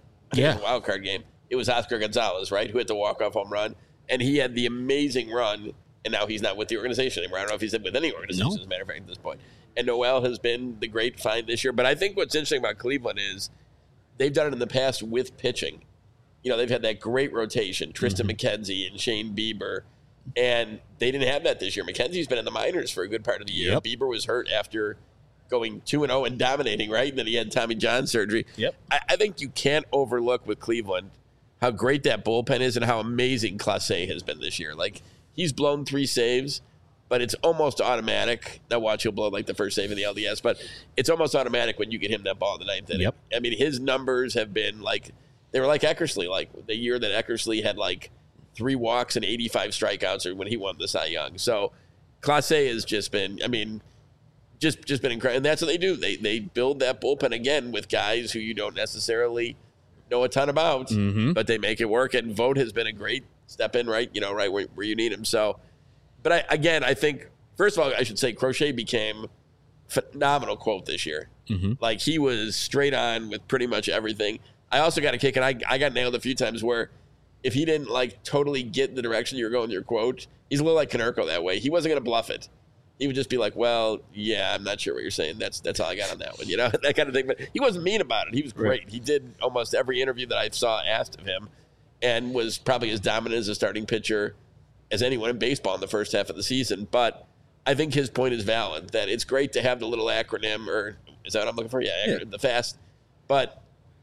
wild card game, it was Oscar Gonzalez, right, who hit the walk-off home run, and he had the amazing run. And now he's not with the organization anymore. I don't know if he's with any organization, as a matter of fact, at this point. And Noel has been the great find this year. But I think what's interesting about Cleveland is they've done it in the past with pitching. They've had that great rotation, Tristan McKenzie and Shane Bieber. And they didn't have that this year. McKenzie's been in the minors for a good part of the year. Yep. Bieber was hurt after going 2-0 and dominating, right? And then he had Tommy John surgery. Yep. I think you can't overlook with Cleveland how great that bullpen is and how amazing Clase has been this year. Like, he's blown 3 saves, but it's almost automatic. Now watch, he'll blow like the first save in the LDS, but it's almost automatic when you get him that ball in the 9th inning. Yep. I mean, his numbers have been like, they were like Eckersley, like the year that Eckersley had like 3 walks and 85 strikeouts, or when he won the Cy Young. So Clase has just been, I mean, just been incredible. And that's what they do. They build that bullpen again with guys who you don't necessarily know a ton about, but they make it work. And Vogt has been a great step in, right? Right where you need him. So, but I think, first of all, I should say Crochet became phenomenal quote this year. Like, he was straight on with pretty much everything. I also got a kick, and I got nailed a few times where if he didn't like totally get the direction you were going with your quote, he's a little like Konerko that way. He wasn't going to bluff it. He would just be like, well, yeah, I'm not sure what you're saying. That's all I got on that one, that kind of thing. But he wasn't mean about it. He was great. Right. He did almost every interview that I saw asked of him, and was probably as dominant as a starting pitcher as anyone in baseball in the first half of the season. But I think his point is valid, that it's great to have the little acronym, or is that what I'm looking for? Yeah, acronym, the FAST. But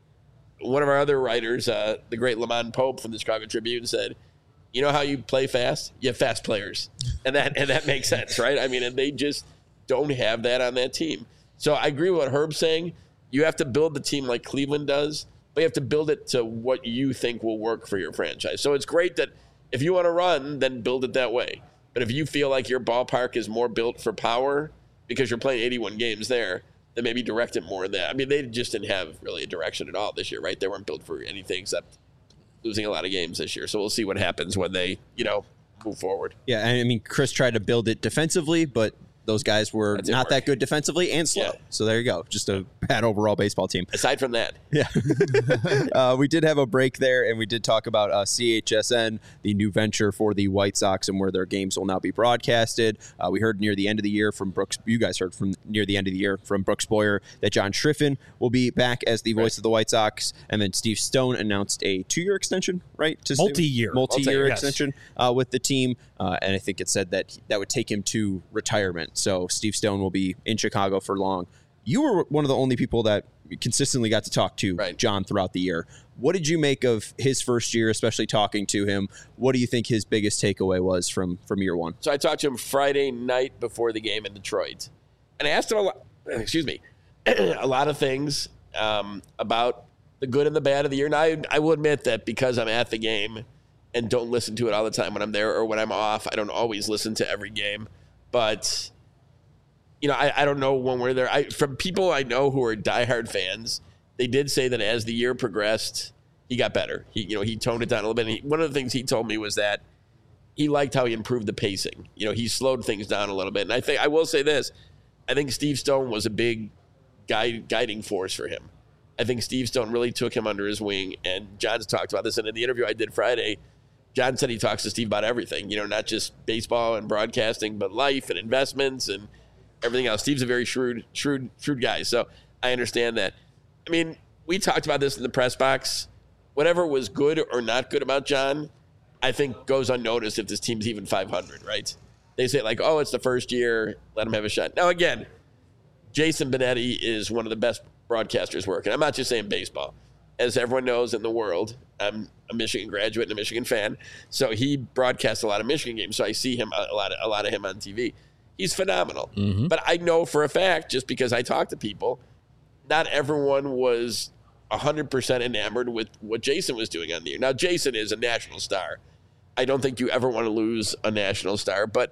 one of our other writers, the great Lamont Pope from the Chicago Tribune, said, you know how you play fast? You have fast players. And that makes sense, right? I mean, and they just don't have that on that team. So I agree with what Herb's saying. You have to build the team like Cleveland does, but you have to build it to what you think will work for your franchise. So it's great that if you want to run, then build it that way. But if you feel like your ballpark is more built for power, because you're playing 81 games there, then maybe direct it more than that. I mean, they just didn't have really a direction at all this year, right? They weren't built for anything except losing a lot of games this year. So we'll see what happens when they, move forward. Yeah, and I mean, Chris tried to build it defensively, but those guys were not that good defensively and slow. Yeah. So there you go. Just a bad overall baseball team. Aside from that. Yeah. We did have a break there, and we did talk about CHSN, the new venture for the White Sox, and where their games will now be broadcasted. We heard near the end of the year from Brooks. You guys heard from near the end of the year from Brooks Boyer that John Schriffen will be back as the voice of the White Sox. And then Steve Stone announced a 2-year extension, right? Multi-year extension with the team. And I think it said that would take him to retirement. So Steve Stone will be in Chicago for long. You were one of the only people that consistently got to talk to John throughout the year. What did you make of his first year, especially talking to him? What do you think his biggest takeaway was from year one? So I talked to him Friday night before the game in Detroit. And I asked him a lot of things about the good and the bad of the year. And I will admit that because I'm at the game and don't listen to it all the time when I'm there or when I'm off, I don't always listen to every game. But I don't know when we're there. From people I know who are diehard fans, they did say that as the year progressed, he got better. He toned it down a little bit. And one of the things he told me was that he liked how he improved the pacing. He slowed things down a little bit. And I will say this. I think Steve Stone was a big guiding force for him. I think Steve Stone really took him under his wing. And John's talked about this. And in the interview I did Friday, John said he talks to Steve about everything, not just baseball and broadcasting, but life and investments and everything else. Steve's a very shrewd guy. So I understand that. I mean, we talked about this in the press box. Whatever was good or not good about John, I think goes unnoticed if this team's even 500, right? They say it's the first year, let him have a shot. Now, again, Jason Benetti is one of the best broadcasters working. I'm not just saying baseball. As everyone knows in the world, I'm a Michigan graduate and a Michigan fan. So he broadcasts a lot of Michigan games. So I see him a lot of him on TV. He's phenomenal. Mm-hmm. But I know for a fact, just because I talk to people, not everyone was 100% enamored with what Jason was doing on the air. Now, Jason is a national star. I don't think you ever want to lose a national star. But,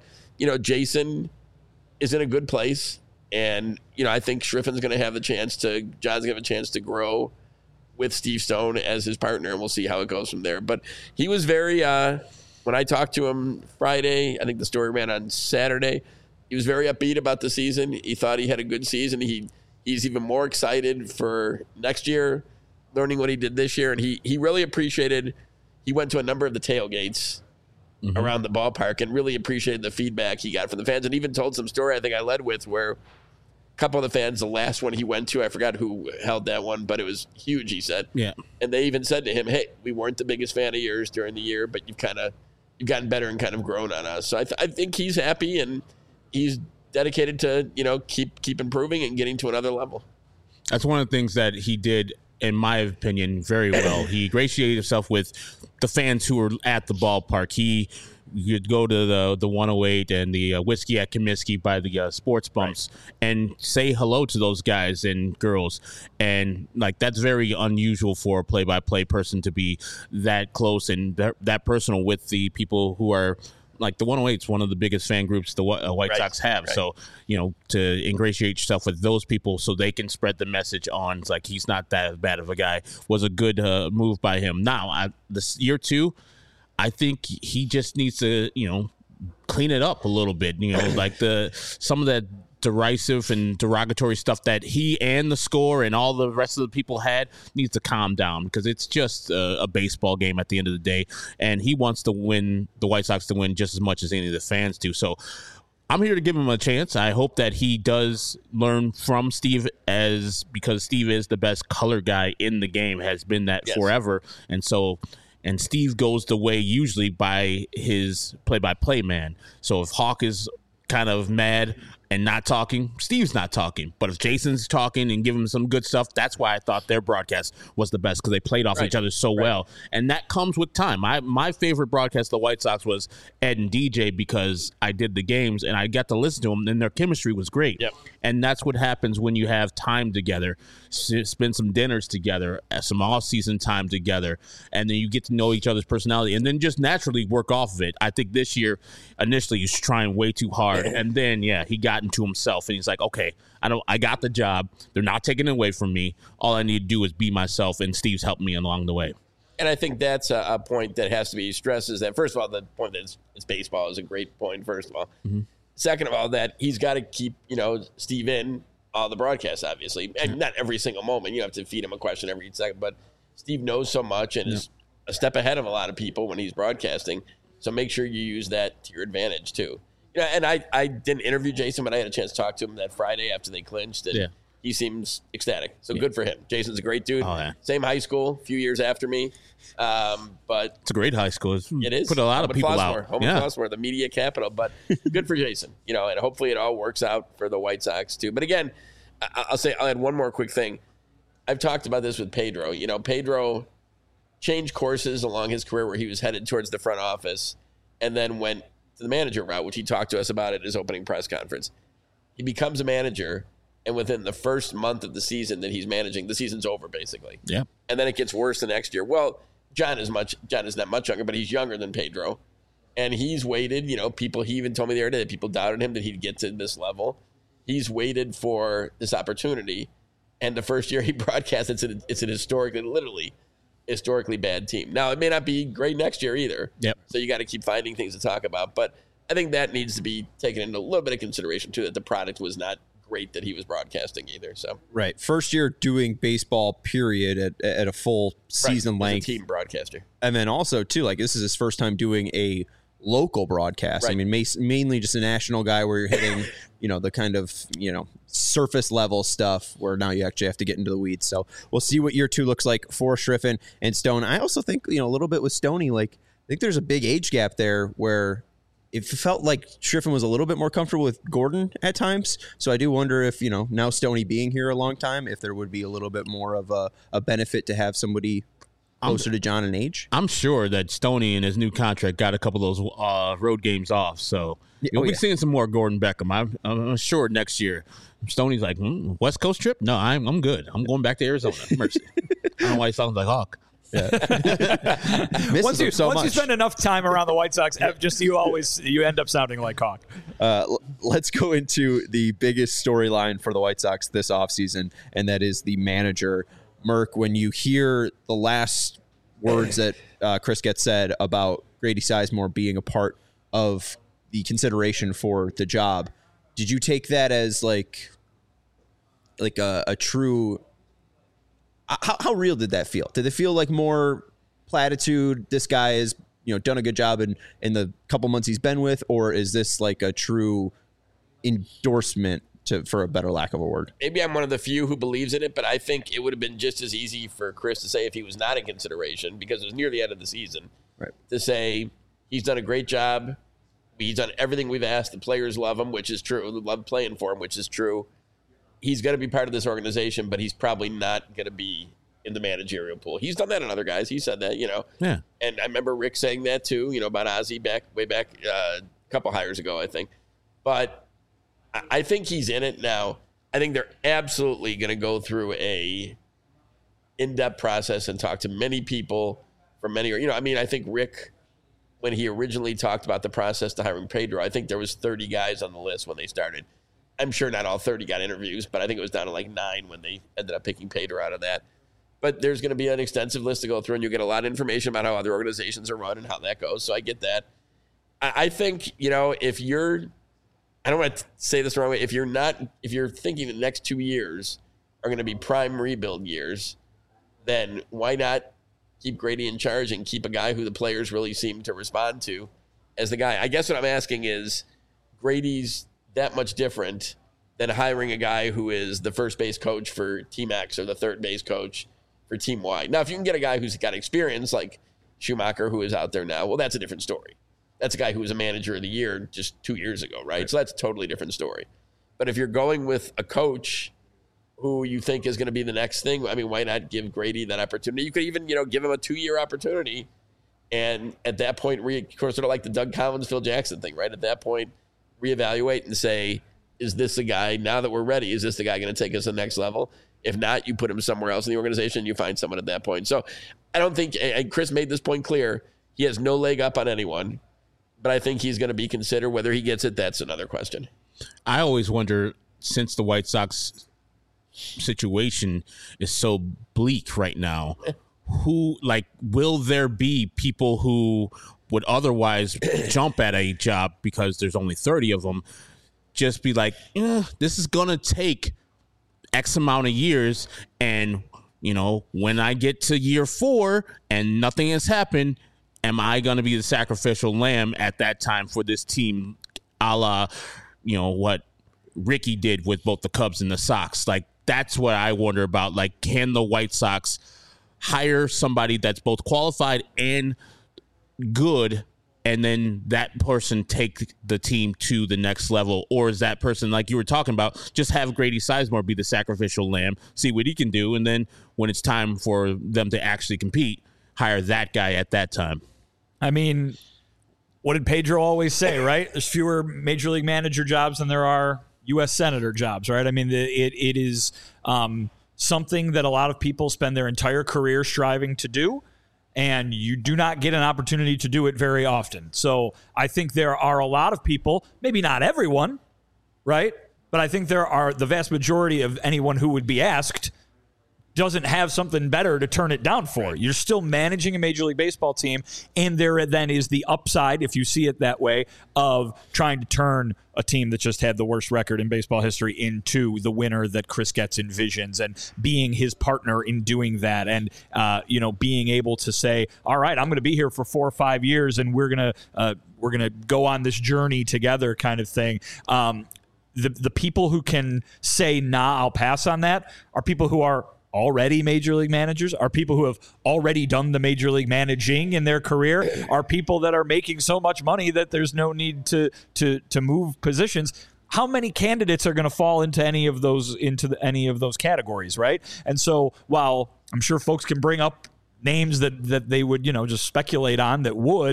Jason is in a good place. And, I think Schriffen's going to have John's going to have a chance to grow with Steve Stone as his partner, and we'll see how it goes from there. But he was very, when I talked to him Friday, I think the story ran on Saturday, he was very upbeat about the season. He thought he had a good season. He's even more excited for next year, learning what he did this year. And he really appreciated, he went to a number of the tailgates around the ballpark and really appreciated the feedback he got from the fans, and even told some story I think I led with where a couple of the fans, the last one he went to, I forgot who held that one, but it was huge, he said. Yeah. And they even said to him, hey, we weren't the biggest fan of yours during the year, but you've gotten better and kind of grown on us. So I think he's happy, and he's dedicated to, keep improving and getting to another level. That's one of the things that he did, in my opinion, very well. He ingratiated himself with the fans who were at the ballpark. You'd go to the 108 and the Whiskey at Comiskey by the sports bumps and say hello to those guys and girls. And that's very unusual for a play-by-play person to be that close and that personal with the people who are the 108 is one of the biggest fan groups the White Sox have. Right. So, to ingratiate yourself with those people so they can spread the message on, he's not that bad of a guy, was a good move by him. Now, this year two, I think he just needs to, clean it up a little bit. Some of that derisive and derogatory stuff that he and the score and all the rest of the people had needs to calm down, because it's just a baseball game at the end of the day, and he wants to win, the White Sox to win just as much as any of the fans do. So I'm here to give him a chance. I hope that he does learn from Steve, because Steve is the best color guy in the game, has been that forever. And Steve goes the way usually by his play-by-play man. So if Hawk is kind of mad and not talking, Steve's not talking. But if Jason's talking and giving him some good stuff, that's why I thought their broadcast was the best, because they played off each other so well. And that comes with time. My favorite broadcast of the White Sox was Ed and DJ, because I did the games and I got to listen to them, and their chemistry was great. Yep. And that's what happens when you have time together, spend some dinners together, some off-season time together, and then you get to know each other's personality and then just naturally work off of it. I think this year, initially, he's trying way too hard hard. And then, he got into himself, and he's like, okay, I got the job. They're not taking it away from me. All I need to do is be myself, and Steve's helping me along the way. And I think that's a point that has to be stressed is that, first of all, the point that it's baseball is a great point, first of all. Mm-hmm. Second of all, that he's got to keep, Steve in all the broadcasts, obviously. And not every single moment. You have to feed him a question every second. But Steve knows so much and is a step ahead of a lot of people when he's broadcasting. So make sure you use that to your advantage, too. And I didn't interview Jason, but I had a chance to talk to him that Friday after they clinched. And he seems ecstatic. So good for him. Jason's a great dude. Oh, yeah. Same high school, a few years after me. But it's a great high school. It is. Put a lot of people out. Flossmoor, the media capital. But good for Jason. And hopefully it all works out for the White Sox, too. But again, I'll add one more quick thing. I've talked about this with Pedro. Pedro changed courses along his career where he was headed towards the front office and then went to the manager route, which he talked to us about at his opening press conference. He becomes a manager, and within the first month of the season that he's managing, the season's over, basically. Yeah. And then it gets worse the next year. Well, John is not much younger, but he's younger than Pedro. And he's waited, he even told me the other day that people doubted him that he'd get to this level. He's waited for this opportunity. And the first year he broadcasts, it's an historically bad team. Now, it may not be great next year either. Yep. So you got to keep finding things to talk about. But I think that needs to be taken into a little bit of consideration, too, that the product was not great that he was broadcasting either. So right. First year doing baseball, period, at a full season length. As a team broadcaster. And then also, too, this is his first time doing a local broadcast. Right. I mean, mainly just a national guy where you're hitting, the kind of, surface level stuff where now you actually have to get into the weeds. So we'll see what year 2 looks like for Striffen and Stone. I also think, a little bit with Stoney, I think there's a big age gap there where it felt like Striffen was a little bit more comfortable with Gordon at times. So I do wonder if, now Stoney being here a long time, if there would be a little bit more of a benefit to have somebody closer to John in age. I'm sure that Stoney in his new contract got a couple of those road games off. So you'll be seeing some more Gordon Beckham. I'm sure next year. Stoney's like, West Coast trip? No, I'm good. I'm going back to Arizona. Mercy. I don't know why he sounds like Hawk. Yeah. Once you spend enough time around the White Sox, you end up sounding like Hawk. Let's go into the biggest storyline for the White Sox this offseason, and that is the manager. Merk, when you hear the last words that Chris Getz said about Grady Sizemore being a part of the consideration for the job, did you take that as like a true? How real did that feel? Did it feel like more platitude? This guy has done a good job in the couple months he's been with, or is this like a true endorsement for a better lack of a word? Maybe I'm one of the few who believes in it, but I think it would have been just as easy for Chris to say if he was not in consideration, because it was near the end of the season, right, to say he's done a great job. He's done everything we've asked. The players love him, which is true. They love playing for him, which is true. He's going to be part of this organization, but he's probably not going to be in the managerial pool. He's done that on other guys. He said that, Yeah. And I remember Rick saying that too, about Ozzie way back a couple hires ago, I think. But I think he's in it now. I think they're absolutely going to go through a in-depth process and talk to many people from many, I think Rick, when he originally talked about the process to hiring Pedro, I think there was 30 guys on the list when they started. I'm sure not all 30 got interviews, but I think it was down to like 9 when they ended up picking Pedro out of that. But there's going to be an extensive list to go through, and you get a lot of information about how other organizations are run and how that goes. So I get that. I think, if you're, I don't want to say this the wrong way, if you're thinking the next 2 years are going to be prime rebuild years, then why not keep Grady in charge and keep a guy who the players really seem to respond to as the guy? I guess what I'm asking is, Grady's that much different than hiring a guy who is the first base coach for Team X or the third base coach for Team Y. Now, if you can get a guy who's got experience like Schumacher, who is out there now, well, that's a different story. That's a guy who was a manager of the year just 2 years ago, right? So that's a totally different story. But if you're going with a coach who you think is going to be the next thing, I mean, why not give Grady that opportunity? You could even, give him a 2-year opportunity. And at that point, of course, sort of like the Doug Collins, Phil Jackson thing, right? At that point, reevaluate and say, is this the guy, now that we're ready, is this the guy going to take us to the next level? If not, you put him somewhere else in the organization and you find someone at that point. So I don't think, and Chris made this point clear, he has no leg up on anyone. but I think he's going to be considered. Whether he gets it, that's another question. I always wonder, since the White Sox situation is so bleak right now, will there be people who would otherwise jump at a job because there's only 30 of them, just be like, this is going to take X amount of years, and when I get to year 4 and nothing has happened, am I going to be the sacrificial lamb at that time for this team, a la, what Ricky did with both the Cubs and the Sox? Like, that's what I wonder about. Like, can the White Sox hire somebody that's both qualified and good, and then that person take the team to the next level? Or is that person, like you were talking about, just have Grady Sizemore be the sacrificial lamb, see what he can do, and then when it's time for them to actually compete, hire that guy at that time? I mean, what did Pedro always say, right? There's fewer major league manager jobs than there are U.S. senator jobs, right? I mean, it is something that a lot of people spend their entire career striving to do, and you do not get an opportunity to do it very often. So I think there are a lot of people, maybe not everyone, right? But I think there are the vast majority of anyone who would be asked doesn't have something better to turn it down for. You're still managing a Major League Baseball team, and there then is the upside, if you see it that way, of trying to turn a team that just had the worst record in baseball history into the winner that Chris Getz envisions, and being his partner in doing that, and being able to say, all right, I'm going to be here for 4 or 5 years, and we're gonna go on this journey together, kind of thing. The people who can say, nah, I'll pass on that, are people who are already major league managers, are people who have already done the major league managing in their career, are people that are making so much money that there's no need to move positions. How many candidates are going to fall into any of those categories, right? And so while I'm sure folks can bring up names that they would just speculate on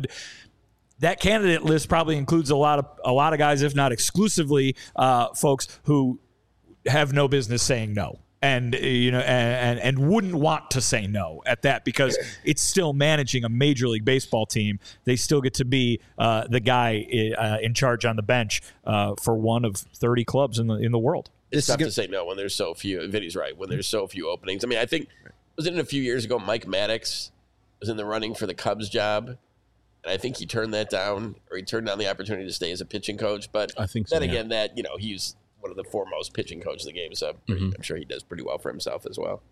that candidate list probably includes a lot of guys, if not exclusively folks who have no business saying no. And and wouldn't want to say no at that, because it's still managing a Major League Baseball team. They still get to be the guy in charge on the bench for one of 30 clubs in the world. It's tough to say no when there's so few. Vinny's right. When there's so few openings. I mean, I think, wasn't it a few years ago, Mike Maddox was in the running for the Cubs job, and I think he turned that down, or he turned down the opportunity to stay as a pitching coach. But I think so, then again, that he's one of the foremost pitching coaches in the game, so I'm sure he does pretty well for himself as well.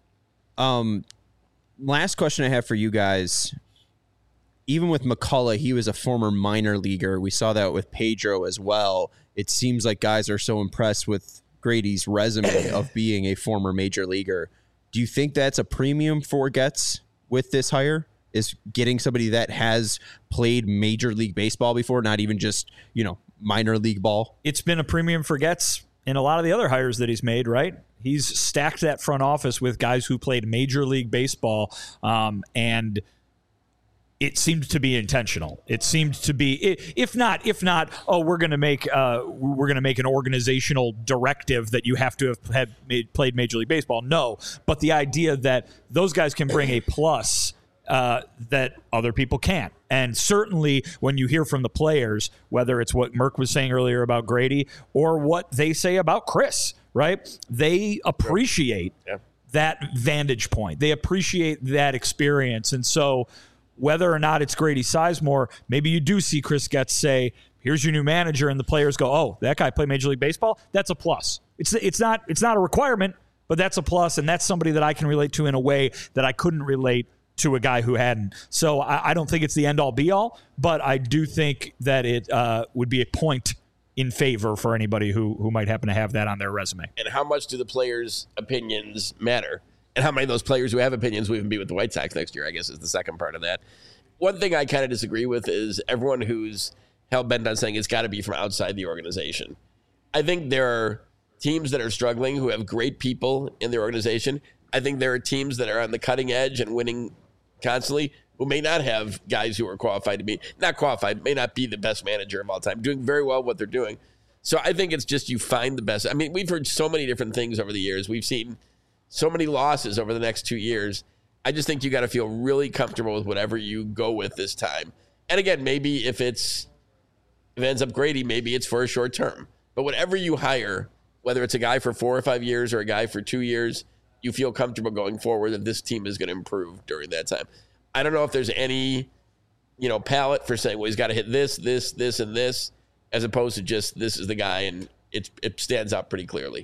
Last question I have for you guys. Even with McCullough, he was a former minor leaguer. We saw that with Pedro as well. It seems like guys are so impressed with Grady's resume of being a former major leaguer. Do you think that's a premium for Getz with this hire? Is getting somebody that has played Major League Baseball before, not even just, minor league ball? It's been a premium for Getz in a lot of the other hires that he's made, right? He's stacked that front office with guys who played Major League Baseball, and it seemed to be intentional. It seemed to be, if not, we're going to make an organizational directive that you have to have played Major League Baseball. No, but the idea that those guys can bring a plus that other people can't. And certainly when you hear from the players, whether it's what Merck was saying earlier about Grady or what they say about Chris, right? They appreciate that vantage point. They appreciate that experience. And so whether or not it's Grady Sizemore, maybe you do see Chris Getz say, here's your new manager, and the players go, oh, that guy played Major League Baseball? That's a plus. It's not a requirement, but that's a plus, and that's somebody that I can relate to in a way that I couldn't relate to a guy who hadn't. So I don't think it's the end-all, be-all, but I do think that it would be a point in favor for anybody who might happen to have that on their resume. And how much do the players' opinions matter? And how many of those players who have opinions will even be with the White Sox next year, I guess, is the second part of that. One thing I kind of disagree with is everyone who's hell-bent on saying it's got to be from outside the organization. I think there are teams that are struggling who have great people in their organization. I think there are teams that are on the cutting edge and winning constantly who may not have guys who are qualified to be, not qualified, may not be the best manager of all time, doing very well what they're doing. So I think it's just you find the best. I mean, we've heard so many different things over the years. We've seen so many losses over the next 2 years. I just think you got to feel really comfortable with whatever you go with this time. And again, maybe if it's If it ends up Grady, maybe it's for a short term. But whatever you hire, whether it's a guy for 4 or 5 years or a guy for 2 years, you feel comfortable going forward that this team is going to improve during that time. I don't know if there's any, palette for saying, well, he's got to hit this, and this, as opposed to just this is the guy, and it stands out pretty clearly.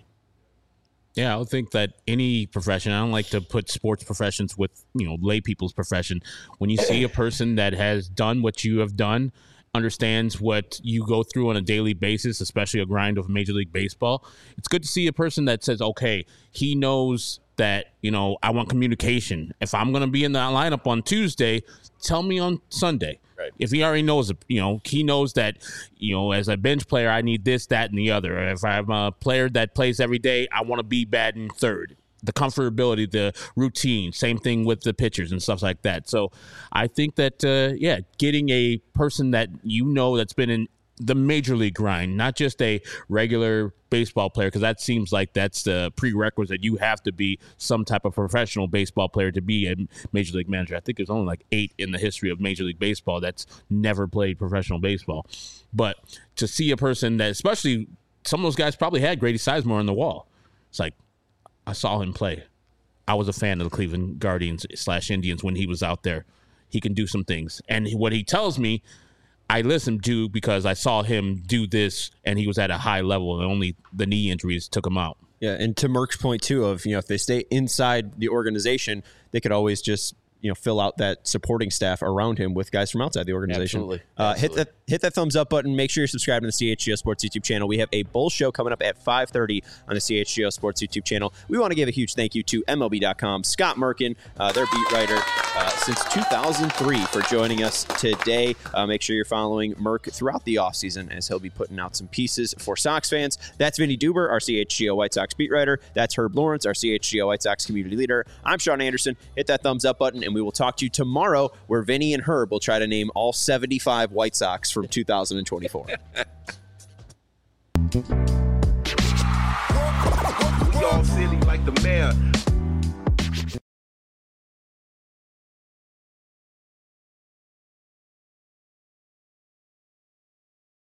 Yeah, I would think that any profession, I don't like to put sports professions with, lay people's profession. When you see a person that has done what you have done, understands what you go through on a daily basis, especially a grind of Major League Baseball, it's good to see a person that says, okay, he knows that, I want communication. If I'm going to be in the lineup on Tuesday, tell me on Sunday. Right. If he already knows, he knows that, as a bench player, I need this, that, and the other. If I'm a player that plays every day, I want to be batting third. The comfortability, the routine, same thing with the pitchers and stuff like that. So I think that, getting a person that that's been in the major league grind, not just a regular baseball player, because that seems like that's the prerequisite. You have to be some type of professional baseball player to be a major league manager. I think there's only like 8 in the history of Major League Baseball that's never played professional baseball. But to see a person that, especially some of those guys probably had Grady Sizemore on the wall. It's like, I saw him play. I was a fan of the Cleveland Guardians / Indians when he was out there. He can do some things. And what he tells me, I listened to because I saw him do this, and he was at a high level, and only the knee injuries took him out. Yeah, and to Merck's point, too, of, if they stay inside the organization, they could always just, fill out that supporting staff around him with guys from outside the organization. Absolutely. Hit that thumbs up button. Make sure you're subscribed to the CHGO Sports YouTube channel. We have a Bull show coming up at 5:30 on the CHGO Sports YouTube channel. We want to give a huge thank you to MLB.com, Scott Merkin, their beat writer since 2003, for joining us today. Make sure you're following Merck throughout the offseason, as he'll be putting out some pieces for Sox fans. That's Vinny Duber, our CHGO White Sox beat writer. That's Herb Lawrence, our CHGO White Sox community leader. I'm Sean Anderson. Hit that thumbs up button, and we will talk to you tomorrow, where Vinny and Herb will try to name all 75 White Sox from 2024. We all silly like the mayor.